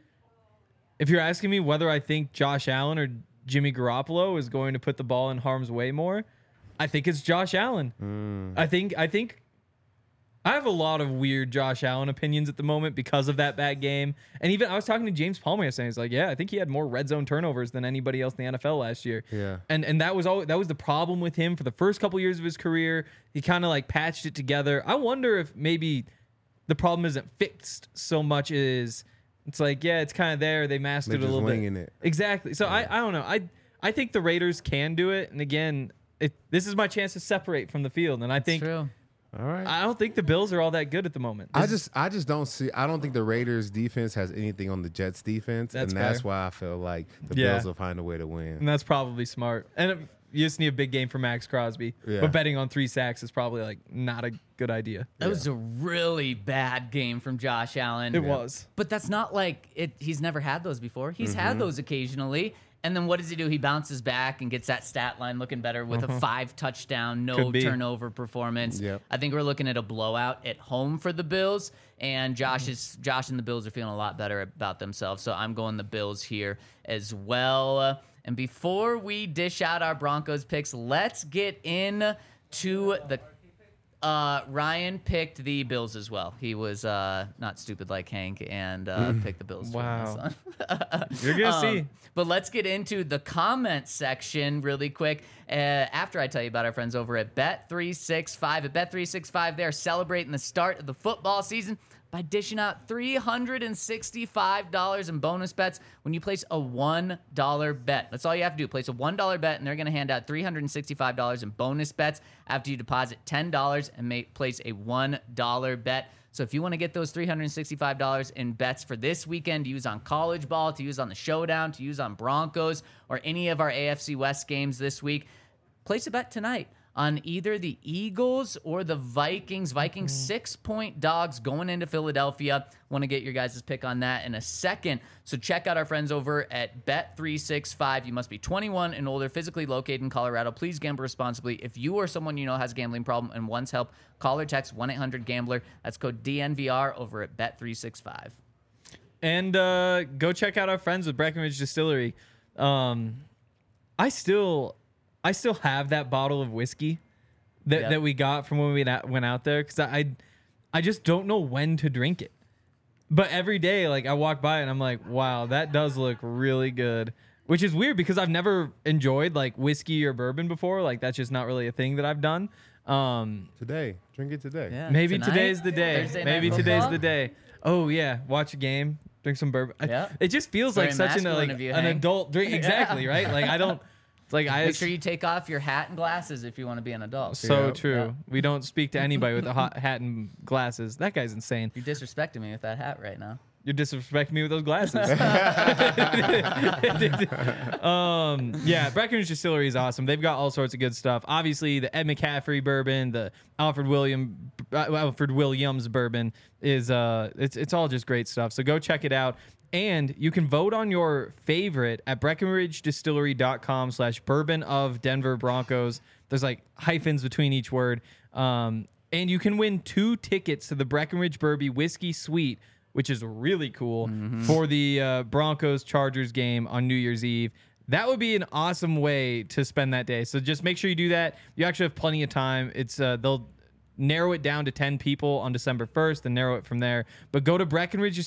if you're asking me whether I think Josh Allen or Jimmy Garoppolo is going to put the ball in harm's way more, I think it's Josh Allen. I think I have a lot of weird Josh Allen opinions at the moment because of that bad game. And even I was talking to James Palmer yesterday. He's like, yeah, I think he had more red zone turnovers than anybody else in the NFL last year. Yeah. And that was the problem with him for the first couple years of his career. He kind of like patched it together. I wonder if maybe the problem isn't fixed so much as it's like, yeah, it's kind of there. They masked They're it a just little winging bit. it. Exactly. So I don't know. I think the Raiders can do it. And again, this is my chance to separate from the field. And I think True. All right. I don't think the Bills are all that good at the moment. I just don't see. I don't think the Raiders defense has anything on the Jets defense, That's and that's fair. why I feel like the Yeah. Bills will find a way to win. And that's probably smart. And you just need a big game for Max Crosby. Yeah. But betting on 3 sacks is probably like not a good idea. That was a really bad game from Josh Allen. It was. But that's not like it. He's never had those before. He's had those occasionally. And then what does he do? He bounces back and gets that stat line looking better with a 5 touchdown, no Could be. turnover performance. Yep. I think we're looking at a blowout at home for the Bills. And Josh and the Bills are feeling a lot better about themselves. So I'm going the Bills here as well. And before we dish out our Broncos picks, let's get in to the Ryan picked the Bills as well. He was not stupid like Hank and picked the Bills. Wow. You're going to see. But let's get into the comment section really quick. After I tell you about our friends over at Bet365. At Bet365, they're celebrating the start of the football season by dishing out $365 in bonus bets when you place a $1 bet. That's all you have to do. Place a $1 bet, and they're going to hand out $365 in bonus bets after you deposit $10 and place a $1 bet. So if you want to get those $365 in bets for this weekend to use on college ball, to use on the showdown, to use on Broncos, or any of our AFC West games this week, place a bet tonight on either the Eagles or the Vikings. Vikings 6-point dogs going into Philadelphia. Want to get your guys' pick on that in a second. So check out our friends over at Bet365. You must be 21 and older, physically located in Colorado. Please gamble responsibly. If you or someone you know has a gambling problem and wants help, call or text 1-800-GAMBLER. That's code DNVR over at Bet365. And go check out our friends with Breckenridge Distillery. I still have that bottle of whiskey that we got from when we went out there, because I just don't know when to drink it. But every day, like, I walk by and I'm like, wow, that does look really good. Which is weird because I've never enjoyed like whiskey or bourbon before. Like, that's just not really a thing that I've done. Today, drink it today. Yeah, Maybe tonight, today's the day. Thursday Maybe night today's football. the day. Oh yeah, watch a game, drink some bourbon. Yeah. It just feels Very like such masculine of you, an Hank. adult drink. Exactly, right? Like, I don't. It's like Make sure you take off your hat and glasses if you want to be an adult. So Yeah. true. Yeah. We don't speak to anybody with a hot hat and glasses. That guy's insane. You're disrespecting me with that hat right now. You're disrespecting me with those glasses. Yeah, Breckenridge Distillery is awesome. They've got all sorts of good stuff. Obviously, the Ed McCaffrey bourbon, the Alfred Williams bourbon is it's all just great stuff. So go check it out. And you can vote on your favorite at BreckenridgeDistillery.com/bourbon of Denver Broncos. There's like hyphens between each word. And you can win 2 tickets to the Breckenridge Bourbon Whiskey Suite, which is really cool, for the Broncos-Chargers game on New Year's Eve. That would be an awesome way to spend that day. So just make sure you do that. You actually have plenty of time. It's they'll narrow it down to 10 people on December 1st and narrow it from there. But go to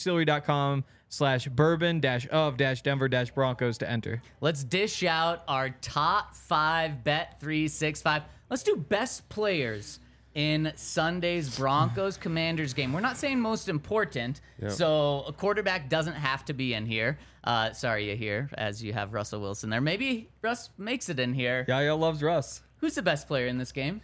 BreckenridgeDistillery.com/bourbon-of-Denver-Broncos to enter. Let's dish out our top 5 Bet365. Let's do best players in Sunday's Broncos-Commanders game. We're not saying most important, so a quarterback doesn't have to be in here. Sorry, Yahir, as you have Russell Wilson there. Maybe Russ makes it in here. Yaya loves Russ. Who's the best player in this game?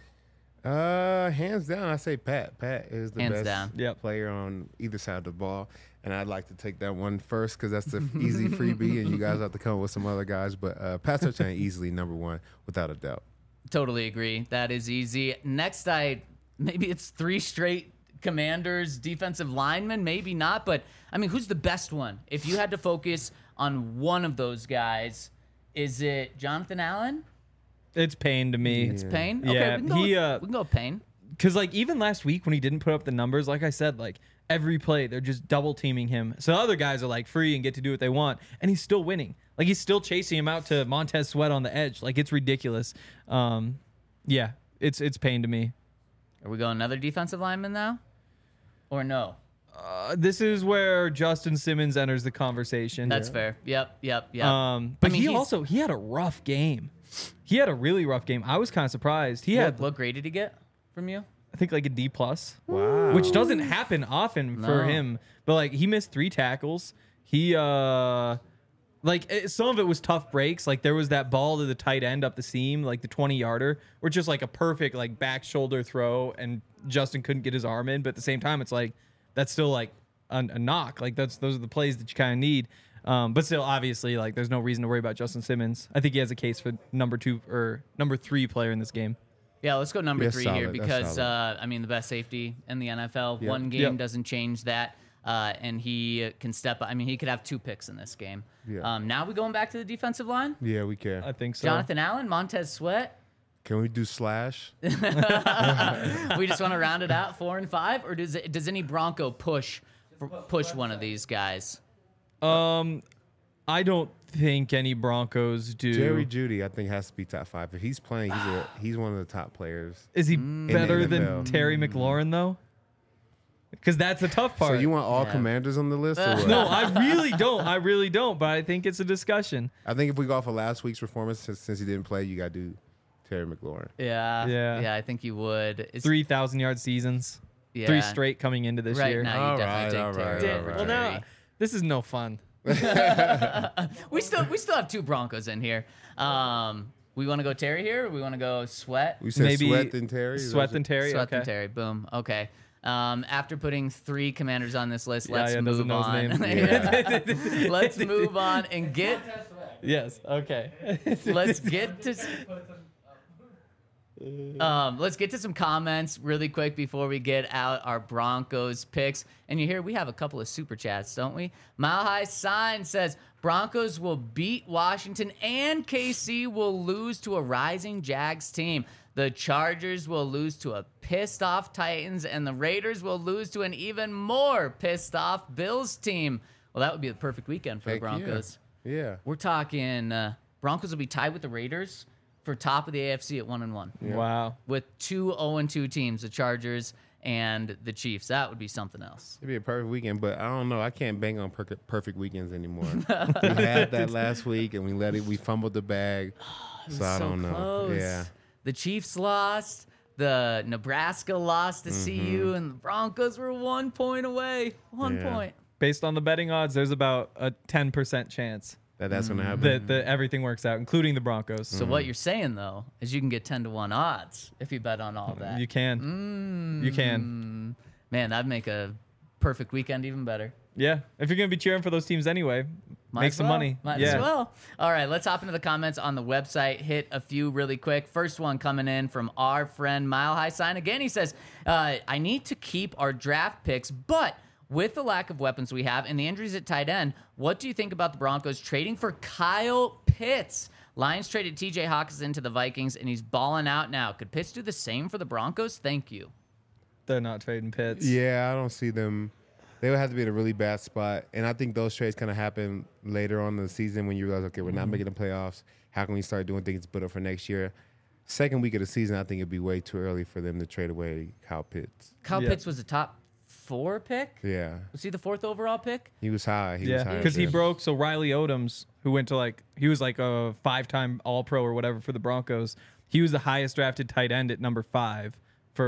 Hands down, I say Pat. Pat is the Hands best down. Yep. player on either side of the ball. And I'd like to take that one first because that's the easy freebie, and you guys have to come up with some other guys. But Pat Surtain easily number one, without a doubt. Totally agree. That is easy. Next, maybe it's 3 straight Commanders defensive linemen, maybe not. But, I mean, who's the best one? If you had to focus on one of those guys, is it Jonathan Allen? It's Payne to me. It's Payne? Yeah, Okay, we can go with Payne. Because, like, even last week when he didn't put up the numbers, like I said, like, every play, they're just double teaming him. So other guys are, like, free and get to do what they want. And he's still winning. Like, he's still chasing him out to Montez Sweat on the edge. Like, it's ridiculous. Yeah, it's Payne to me. Are we going another defensive lineman now? Or no? This is where Justin Simmons enters the conversation. That's fair. Yep. But I mean, he had a rough game. He had a really rough game. I was kind of surprised. He had, what grade did he get from you? I think, like a D+. Wow. Which doesn't happen often for No. him. But, like, he missed 3 tackles. He, some of it was tough breaks. Like, there was that ball to the tight end up the seam, like the 20-yarder, or just, like, a perfect, like, back shoulder throw, and Justin couldn't get his arm in. But at the same time, it's like, that's still, like, a knock. Like, those are the plays that you kind of need. But still, obviously, like, there's no reason to worry about Justin Simmons. I think he has a case for number 2 or number 3 player in this game. Yeah, let's go number Yeah, 3 solid. here That's because, solid. I mean, the best safety in the NFL. Yep. One game Yep. doesn't change that. And he can step up. I mean, he could have 2 picks in this game. Yeah. Now we going back to the defensive line? Yeah, we can. I think so. Jonathan Allen, Montez Sweat. Can we do slash? We just want to round it out 4 and 5? Or does any Bronco push one of these guys? I don't think any Broncos do. Jerry Jeudy, I think, has to be top 5. If he's playing, he's one of the top players. Is he the better than NFL. Terry McLaurin though? Because that's the tough part. So you want all Commanders on the list? Or what? No, I really don't. I really don't. But I think it's a discussion. I think if we go off of last week's performance, since he didn't play, you got to do Terry McLaurin. Yeah, I think you would. It's 3,000-yard seasons. Yeah. 3 straight coming into this right year. now. You All definitely right, take all right, Terry. all over right. Well, now Terry. this is no fun. We still have 2 Broncos in here. We want to go Terry here, or we want to go Sweat? We said Maybe Sweat and Terry. Sweat and Terry. Sweat Okay. and Terry. Boom. Okay. After putting 3 Commanders on this list, Yeah, let's doesn't move know his on. name. Yeah. Let's move on and get. Yes. Okay. Let's get to. Let's get to some comments really quick before we get out our Broncos picks. And you hear we have a couple of super chats, don't we? Mile High Sign says Broncos will beat Washington and KC will lose to a rising Jags team. The Chargers will lose to a pissed off Titans and the Raiders will lose to an even more pissed off Bills team. Well, that would be the perfect weekend for Heck the Broncos. Yeah. We're talking Broncos will be tied with the Raiders for top of the AFC at 1-1. Wow. With 2 0-2 teams, the Chargers and the Chiefs. That would be something else. It'd be a perfect weekend, but I don't know. I can't bang on perfect weekends anymore. We had that last week, and we fumbled the bag. So I don't know. Close. Yeah. The Chiefs lost. The Nebraska lost to Mm-hmm. CU, and the Broncos were 1 point away. One Yeah. point. Based on the betting odds, there's about a 10% chance That's going to happen. that everything works out, including the Broncos. So what you're saying, though, is you can get 10-1 odds if you bet on all that. You can. You can. Man, that'd make a perfect weekend even better. Yeah. If you're going to be cheering for those teams anyway, Might make as some well. money. Might yeah. as well. All right, let's hop into the comments on the website. Hit a few really quick. First one coming in from our friend Mile High Sign. Again, he says, I need to keep our draft picks, but with the lack of weapons we have and the injuries at tight end, what do you think about the Broncos trading for Kyle Pitts? Lions traded TJ Hawkinson to the Vikings, and he's balling out now. Could Pitts do the same for the Broncos? Thank you. They're not trading Pitts. Yeah, I don't see them. They would have to be in a really bad spot. And I think those trades kind of happen later on in the season when you realize, okay, we're not making the playoffs. How can we start doing things to put up for next year? Second week of the season, I think it'd be way too early for them to trade away Kyle Pitts. Kyle Yeah. Pitts was a top 4 pick? Yeah. Was he the 4th overall pick? He was high. He was Yeah, high. because he broke. So Riley Odoms, who went to he was like a 5-time All-Pro or whatever for the Broncos. He was the highest drafted tight end at number 5 for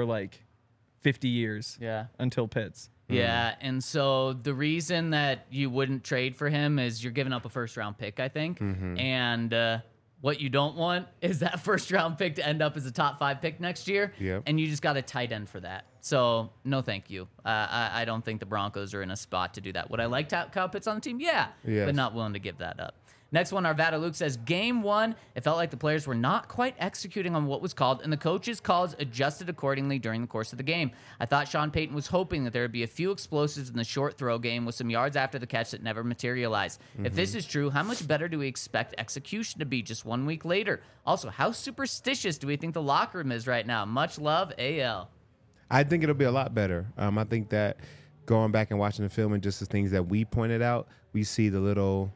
50 years. Yeah. Until Pitts. Yeah, and so the reason that you wouldn't trade for him is you're giving up a first-round pick, I think. And what you don't want is that first-round pick to end up as a top 5 pick next year. Yep. And you just got a tight end for that. So, no thank you. I don't think the Broncos are in a spot to do that. Would I like Kyle Pitts on the team? Yeah, Yes. but not willing to give that up. Next one, Arvada Luke says, Game 1, it felt like the players were not quite executing on what was called, and the coaches' calls adjusted accordingly during the course of the game. I thought Sean Payton was hoping that there would be a few explosives in the short throw game with some yards after the catch that never materialized. If this is true, how much better do we expect execution to be just 1 week later? Also, how superstitious do we think the locker room is right now? Much love, AL. I think it'll be a lot better. I think that going back and watching the film and just the things that we pointed out, we see the little,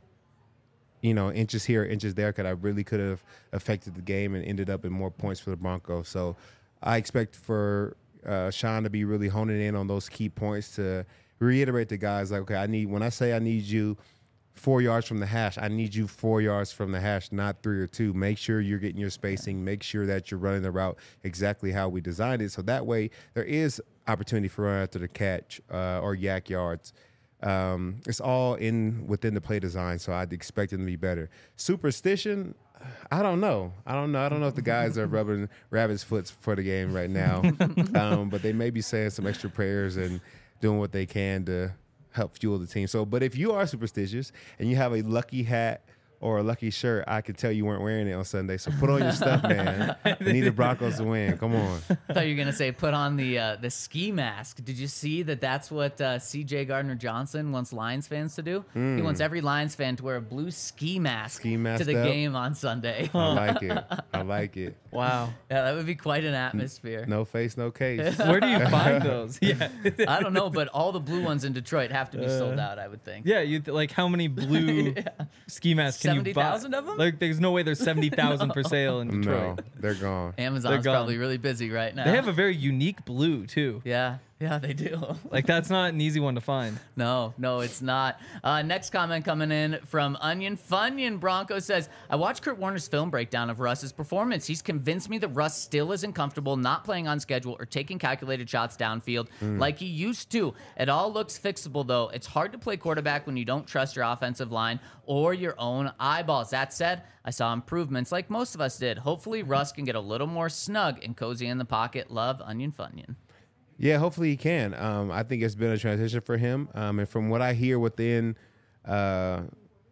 inches here, inches there, could have affected the game and ended up in more points for the Broncos. So I expect for Sean to be really honing in on those key points to reiterate to guys like, okay, when I say I need you 4 yards from the hash, I need you 4 yards from the hash, not 3 or 2. Make sure you're getting your spacing. Make sure that you're running the route exactly how we designed it. So that way there is opportunity for run after the catch or yak yards. It's all within the play design, so I'd expect them to be better. Superstition, I don't know. I don't know if the guys are rubbing rabbit's foot for the game right now, but they may be saying some extra prayers and doing what they can to help fuel the team. So, but if you are superstitious and you have a lucky hat or a lucky shirt, I could tell you weren't wearing it on Sunday. So put on your stuff, man. We need the Broncos to win. Come on. I thought you were gonna say put on the ski mask. Did you see that? That's what C.J. Gardner-Johnson wants Lions fans to do. He wants every Lions fan to wear a blue ski mask to the game on Sunday. I like it. I like it. Wow. Yeah, that would be quite an atmosphere. No face, no case. Where do you find those? Yeah. I don't know, but all the blue ones in Detroit have to be sold out, I would think. Yeah, like how many blue ski masks can you buy? 70,000 of them? Like, there's no way there's 70,000 for sale in No, Detroit. they're gone. Amazon's gone. probably really busy right now. They have a very unique blue too. Yeah, they do. Like that's not an easy one to find. No, it's not. Next comment coming in from Onion Funyon. Bronco says, I watched Kurt Warner's film breakdown of Russ's performance. He's convinced me that Russ still isn't comfortable not playing on schedule or taking calculated shots downfield like he used to. It all looks fixable, though. It's hard to play quarterback when you don't trust your offensive line or your own eyeballs. That said, I saw improvements like most of us did. Hopefully, Russ can get a little more snug and cozy in the pocket. Love, Onion Funyon. Yeah, hopefully he can. I think it's been a transition for him. And from what I hear within that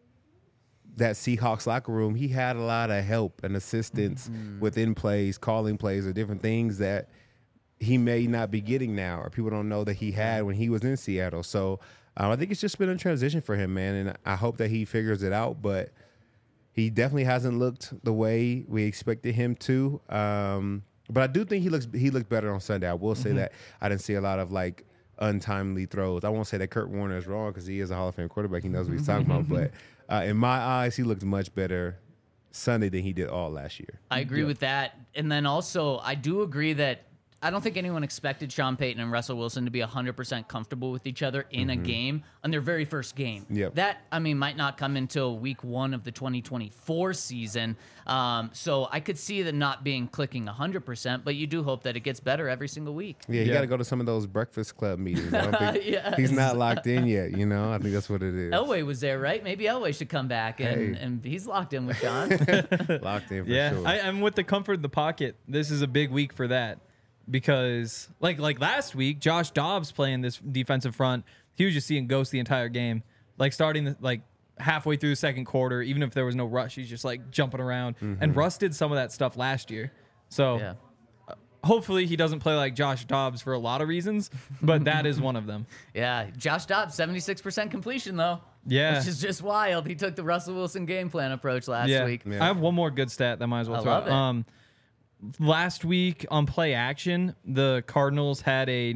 Seahawks locker room, he had a lot of help and assistance within plays, calling plays, or different things that he may not be getting now, or people don't know that he had when he was in Seattle. So I think it's just been a transition for him, man. And I hope that he figures it out. But he definitely hasn't looked the way we expected him to. But I do think he looked better on Sunday. I will say that I didn't see a lot of like untimely throws. I won't say that Kurt Warner is wrong because he is a Hall of Fame quarterback. He knows what he's talking about. But in my eyes, he looked much better Sunday than he did all last year. I agree with that. And then also, I do agree that I don't think anyone expected Sean Payton and Russell Wilson to be 100% comfortable with each other in a game on their very first game. Yep. That, might not come until week 1 of the 2024 season. So I could see that not being clicking 100%, but you do hope that it gets better every single week. Yeah, you got to go to some of those Breakfast Club meetings. I don't think he's not locked in yet, I think that's what it is. Elway was there, right? Maybe Elway should come back, and he's locked in with Sean. Locked in for Yeah, sure. I'm with the comfort of the pocket. This is a big week for that. Because like last week, Josh Dobbs playing this defensive front, he was just seeing ghosts the entire game. Like starting halfway through the second quarter, even if there was no rush, he's just like jumping around. And Russ did some of that stuff last year. So hopefully he doesn't play like Josh Dobbs for a lot of reasons, but that is one of them. Yeah, Josh Dobbs, 76% completion though. Yeah. Which is just wild. He took the Russell Wilson game plan approach last week. Yeah. I have one more good stat that might as well I throw love out. it. Last week on play action, the Cardinals had a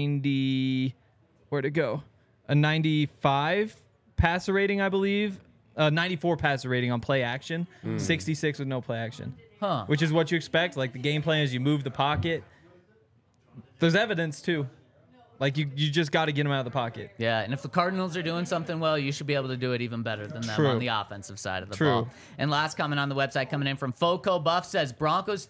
95 passer rating, I believe. 94 passer rating on play action, 66 with no play action. Huh. Which is what you expect. Like the game plan is you move the pocket. There's evidence too. Like you just got to get them out of the pocket. Yeah, and if the Cardinals are doing something well, you should be able to do it even better than them True. on the offensive side of the True. ball. And last comment on the website coming in from Foco Buff says, Broncos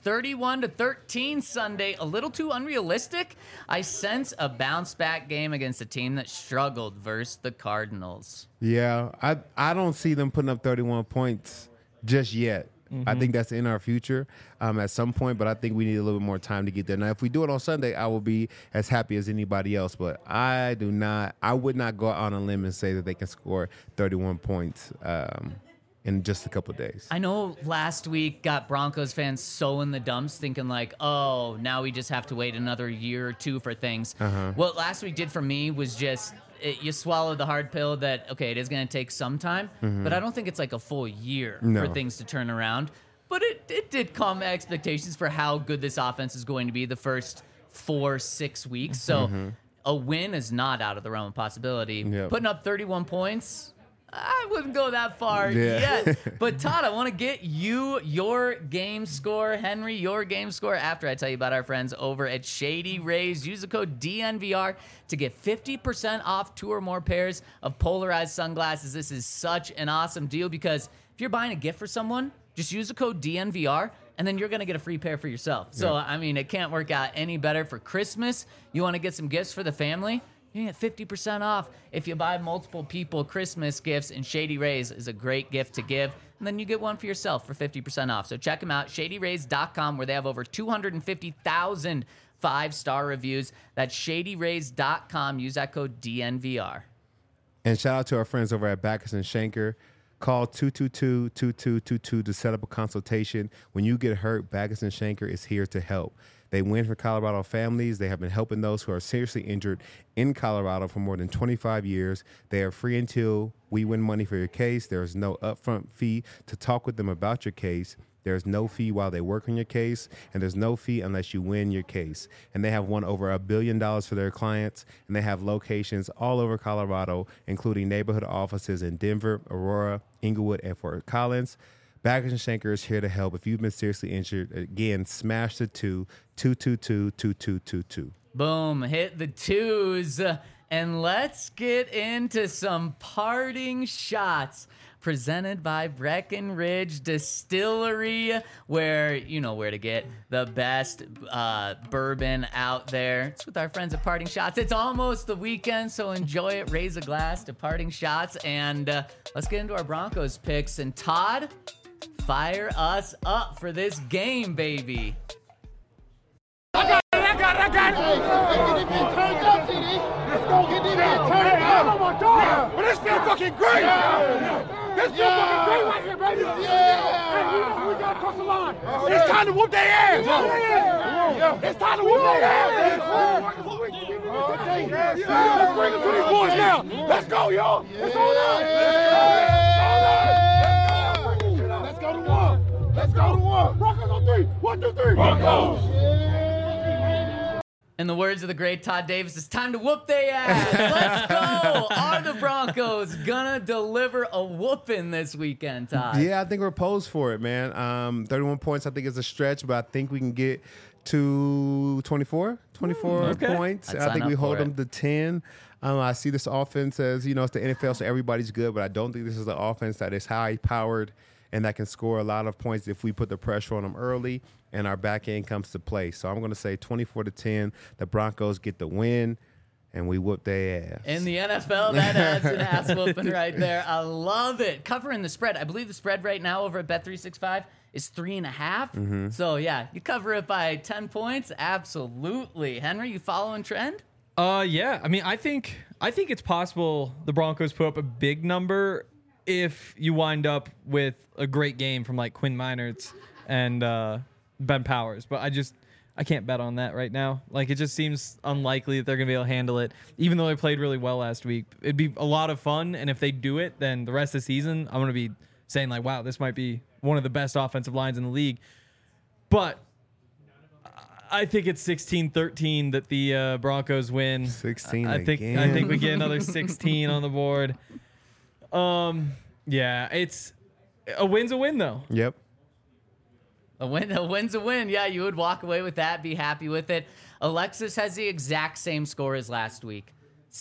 31-13 Sunday. A little too unrealistic? I sense a bounce-back game against a team that struggled versus the Cardinals. Yeah, I don't see them putting up 31 points just yet. I think that's in our future at some point, but I think we need a little bit more time to get there. Now, if we do it on Sunday, I will be as happy as anybody else, but I would not go out on a limb and say that they can score 31 points in just a couple of days. I know last week got Broncos fans so in the dumps thinking like, oh, now we just have to wait another year or two for things. What last week did for me was just you swallow the hard pill that, okay, it is going to take some time, but I don't think it's like a full year for things to turn around. But it did calm my expectations for how good this offense is going to be the first 4-6 weeks. So a win is not out of the realm of possibility. Yep. Putting up 31 points, I wouldn't go that far Yeah. yet. But Todd, I want to get you your game score. Henry, your game score after I tell you about our friends over at Shady Rays. Use the code DNVR to get 50% off 2 or more pairs of polarized sunglasses. This is such an awesome deal because if you're buying a gift for someone, just use the code DNVR and then you're going to get a free pair for yourself. So, I mean, it can't work out any better for Christmas. You want to get some gifts for the family? You get 50% off if you buy multiple people Christmas gifts, and Shady Rays is a great gift to give. And then you get one for yourself for 50% off. So check them out, ShadyRays.com, where they have over 250,000 5-star reviews. That's ShadyRays.com. Use that code DNVR. And shout out to our friends over at Backus and Schenker. Call 222-2222 to set up a consultation. When you get hurt, Backus and Shanker is here to help. They win for Colorado families. They have been helping those who are seriously injured in Colorado for more than 25 years. They are free until we win money for your case. There is no upfront fee to talk with them about your case. There's no fee while they work on your case, and there's no fee unless you win your case. And they have won over $1 billion for their clients, and they have locations all over Colorado, including neighborhood offices in Denver, Aurora, Inglewood, and Fort Collins. Backus and Shanker is here to help. If you've been seriously injured, again, smash the 222-2222. Boom, hit the twos. And let's get into some parting shots presented by Breckenridge Distillery, where you know where to get the best bourbon out there. It's with our friends at Parting Shots. It's almost the weekend, so enjoy it. Raise a glass to Parting Shots, and let's get into our Broncos picks. And Todd, fire us up for this game, baby. I got it. Turn it up, TD. Let's go get this man. Turn it up. Oh my God. But this feels fucking great. This feels fucking great right here, baby. Hey, we got to cross the line. It's time to whoop their ass. It's time to whoop their ass. Let's bring them to these boys now. Let's go, y'all. It's on us. Let's go to one. Let's go to one. Broncos on three. 1, 2, 3. Broncos. In the words of the great Todd Davis, it's time to whoop their ass. Let's go. Are the Broncos gonna deliver a whooping this weekend, Todd? Yeah, I think we're posed for it, man. 31 points, I think, is a stretch, but I think we can get to 24 points. I think we hold them to 10. I see this offense as, it's the NFL, so everybody's good, but I don't think this is an offense that is high-powered and that can score a lot of points if we put the pressure on them early and our back end comes to play. So I'm going to say 24-10. The Broncos get the win, and we whoop their ass. In the NFL, that adds an ass whooping right there. I love it. Covering the spread. I believe the spread right now over at Bet365 is 3.5. So, yeah, you cover it by 10 points. Absolutely. Henry, you following trend? Yeah. I mean, I think it's possible the Broncos put up a big number if you wind up with a great game from like Quinn Meinerz and Ben Powers, but I can't bet on that right now. Like, it just seems unlikely that they're gonna be able to handle it, even though they played really well last week. It'd be a lot of fun, and if they do it, then the rest of the season, I'm gonna be saying like, wow, this might be one of the best offensive lines in the league. But I think it's 16-13 that the Broncos win. 16 I think we get another 16 on the board. Yeah, it's a win's a win though. Yep. A win's a win. Yeah, you would walk away with that, be happy with it. Alexis has the exact same score as last week,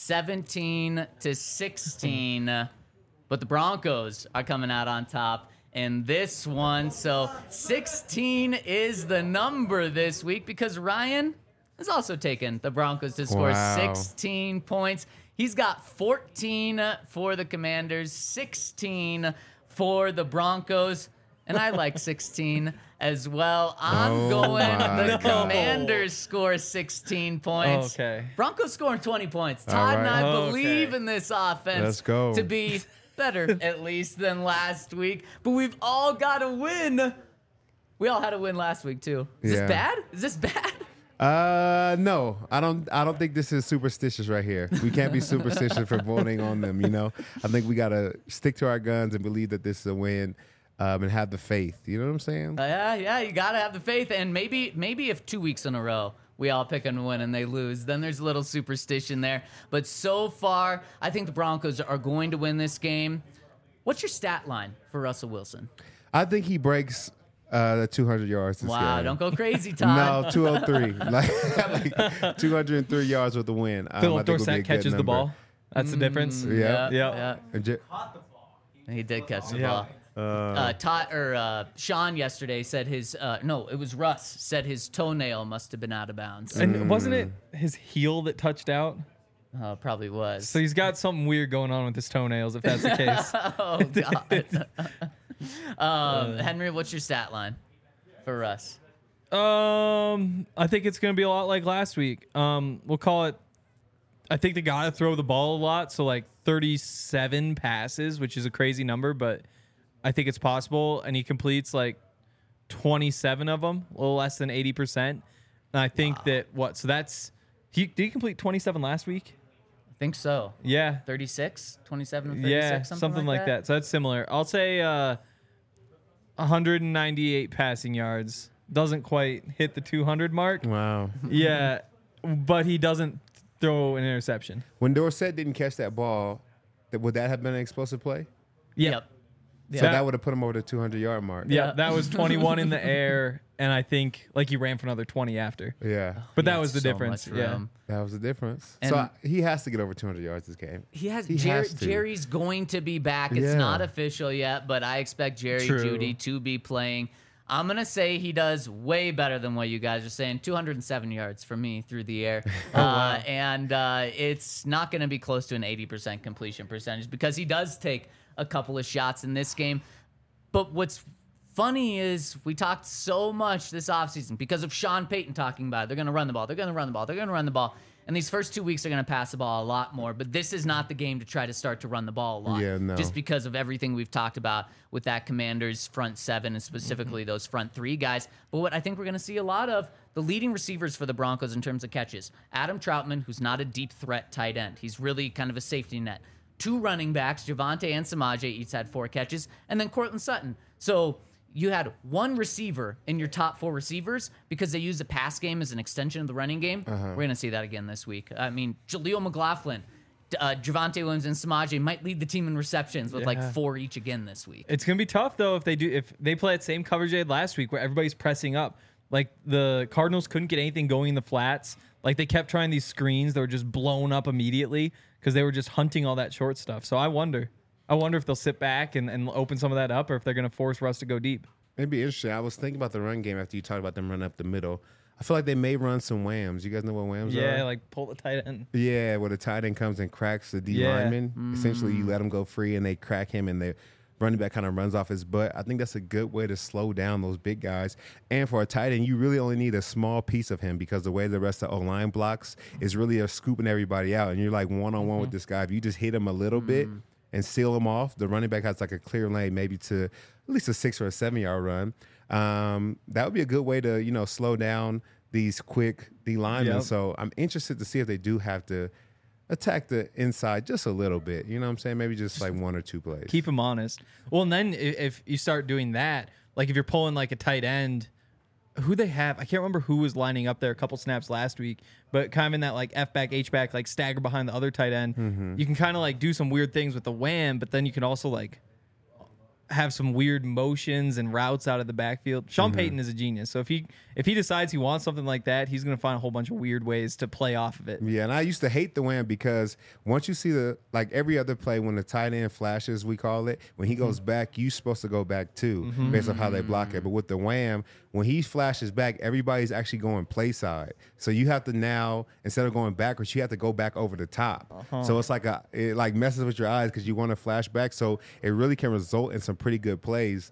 17-16. But the Broncos are coming out on top in this one. So 16 is the number this week because Ryan has also taken the Broncos to score 16 points. He's got 14 for the Commanders, 16 for the Broncos. And I like 16 as well. I'm going the Commanders score 16 points. Okay. Broncos scoring 20 points. Todd and I believe in this offense to be better, at least, than last week. But we've all got to win. We all had a win last week, too. Is this bad? Is this bad? No, I don't think this is superstitious right here. We can't be superstitious for voting on them, I think we got to stick to our guns and believe that this is a win. And have the faith. You know what I'm saying? Yeah, you got to have the faith. And maybe if 2 weeks in a row we all pick and win and they lose, then there's a little superstition there. But so far, I think the Broncos are going to win this game. What's your stat line for Russell Wilson? I think he breaks the 200 yards this Wow, game. don't go crazy, Todd. No, 203. like 203 yards with the win. Philip Dorsett catches the ball. That's the difference. Yeah. He did catch the ball. Sean yesterday said it was Russ said his toenail must have been out of bounds. And wasn't it his heel that touched out? Probably was. So he's got something weird going on with his toenails, if that's the case. Oh, God. Henry, what's your stat line for Russ? I think it's going to be a lot like last week. We'll call it I think they got to throw the ball a lot. So like 37 passes, which is a crazy number, but I think it's possible. And he completes like 27 of them, a little less than 80%. And I think so that's, did he complete 27 last week? I think so. Yeah. 36, 27 and 36, Yeah, something like that. So that's similar. I'll say 198 passing yards. Doesn't quite hit the 200 mark. Wow. Yeah, but he doesn't throw an interception. When Dorsett didn't catch that ball, would that have been an explosive play? Yep. So that would have put him over the 200-yard mark. Yeah, that was 21 in the air, and I think like he ran for another 20 after. Yeah. But He that had was the so difference. much Yeah. room. That was the difference. And- So he has to get over 200 yards this game. He has, He has to. Jerry's going to be back. It's Yeah. not official yet, but I expect Jerry True. Jeudy to be playing. I'm going to say he does way better than what you guys are saying. 207 yards for me through the air. And it's not going to be close to an 80% completion percentage because he does take a couple of shots in this game. But what's funny is we talked so much this offseason because of Sean Payton talking about it. They're going to run the ball. They're going to run the ball. They're going to run the ball. And these first 2 weeks are going to pass the ball a lot more. But this is not the game to try to start to run the ball a lot. Yeah, no. Just because of everything we've talked about with that Commanders front seven and specifically those front three guys. But what I think we're going to see a lot of, the leading receivers for the Broncos in terms of catches. Adam Troutman, who's not a deep threat tight end. He's really kind of a safety net. 2 running backs, Javonte and Samaje, each had 4 catches. And then Cortland Sutton. So you had 1 receiver in your top 4 receivers because they use the pass game as an extension of the running game. We're going to see that again this week. I mean, Jaleel McLaughlin, Javonte Williams, and Samaje might lead the team in receptions with like 4 each again this week. It's gonna be tough though if they play that same coverage they had last week where everybody's pressing up. Like the Cardinals couldn't get anything going in the flats. Like they kept trying these screens that were just blown up immediately because they were just hunting all that short stuff. So I wonder if they'll sit back and open some of that up or if they're gonna force Russ to go deep. It'd be interesting. I was thinking about the run game after you talked about them running up the middle. I feel like they may run some whams. You guys know what whams are? Yeah, like pull the tight end. Yeah, where the tight end comes and cracks the D Yeah. lineman. Essentially, you let him go free and they crack him and the running back kind of runs off his butt. I think that's a good way to slow down those big guys. And for a tight end, you really only need a small piece of him because the way the rest of the O-line blocks is really scooping everybody out. And you're like one-on-one with this guy. If you just hit him a little bit and seal him off, the running back has like a clear lane maybe to at least a 6 or a 7 yard run. That would be a good way to, slow down these quick D linemen. Yep. So I'm interested to see if they do have to attack the inside just a little bit. You know what I'm saying? Maybe just like 1 or 2 plays. Keep him honest. Well, and then if you start doing that, like if you're pulling like a tight end, who they have, I can't remember who was lining up there a couple snaps last week, but kind of in that like F back, H back, like stagger behind the other tight end. You can kind of like do some weird things with the wham, but then you can also like have some weird motions and routes out of the backfield. Sean Payton is a genius. So if he decides he wants something like that, he's going to find a whole bunch of weird ways to play off of it. Yeah, and I used to hate the wham because once you see every other play when the tight end flashes, we call it, when he goes back, you're supposed to go back too, based on how they block it. But with the wham, when he flashes back, everybody's actually going play side. So you have to now, instead of going backwards, you have to go back over the top. So it's like it messes with your eyes because you want to flash back. So it really can result in some pretty good plays.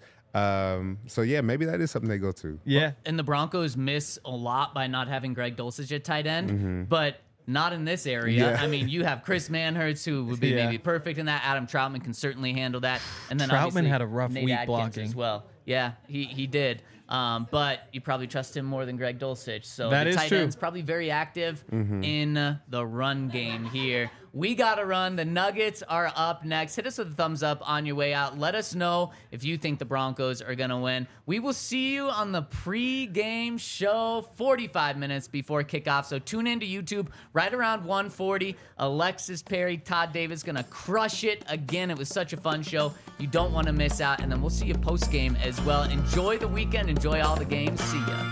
So yeah, maybe that is something they go to. Yeah. And the Broncos miss a lot by not having Greg Dulcich at tight end, but not in this area. Yeah. I mean, you have Chris Manhertz, who would be Yeah. maybe perfect in that. Adam Troutman can certainly handle that. And then Troutman obviously had a rough Nate week Adkins blocking. as well. Yeah, he did. But you probably trust him more than Greg Dulcich. So That the is tight true. end's probably very active in the run game here. We got to run. The Nuggets are up next. Hit us with a thumbs up on your way out. Let us know if you think the Broncos are going to win. We will see you on the pre-game show 45 minutes before kickoff. So tune into YouTube right around 1:40. Alexis Perry, Todd Davis going to crush it again. It was such a fun show. You don't want to miss out. And then we'll see you post-game as well. Enjoy the weekend. Enjoy all the games. See ya.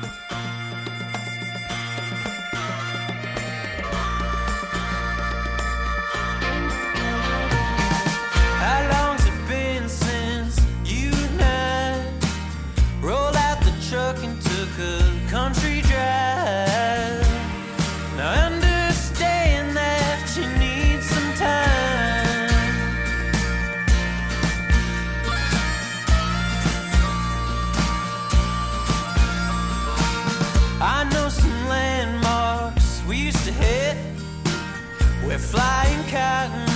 How long's it been since you and I rolled out the truck and took a country drive? Now I understand that you need some time. We're flying cotton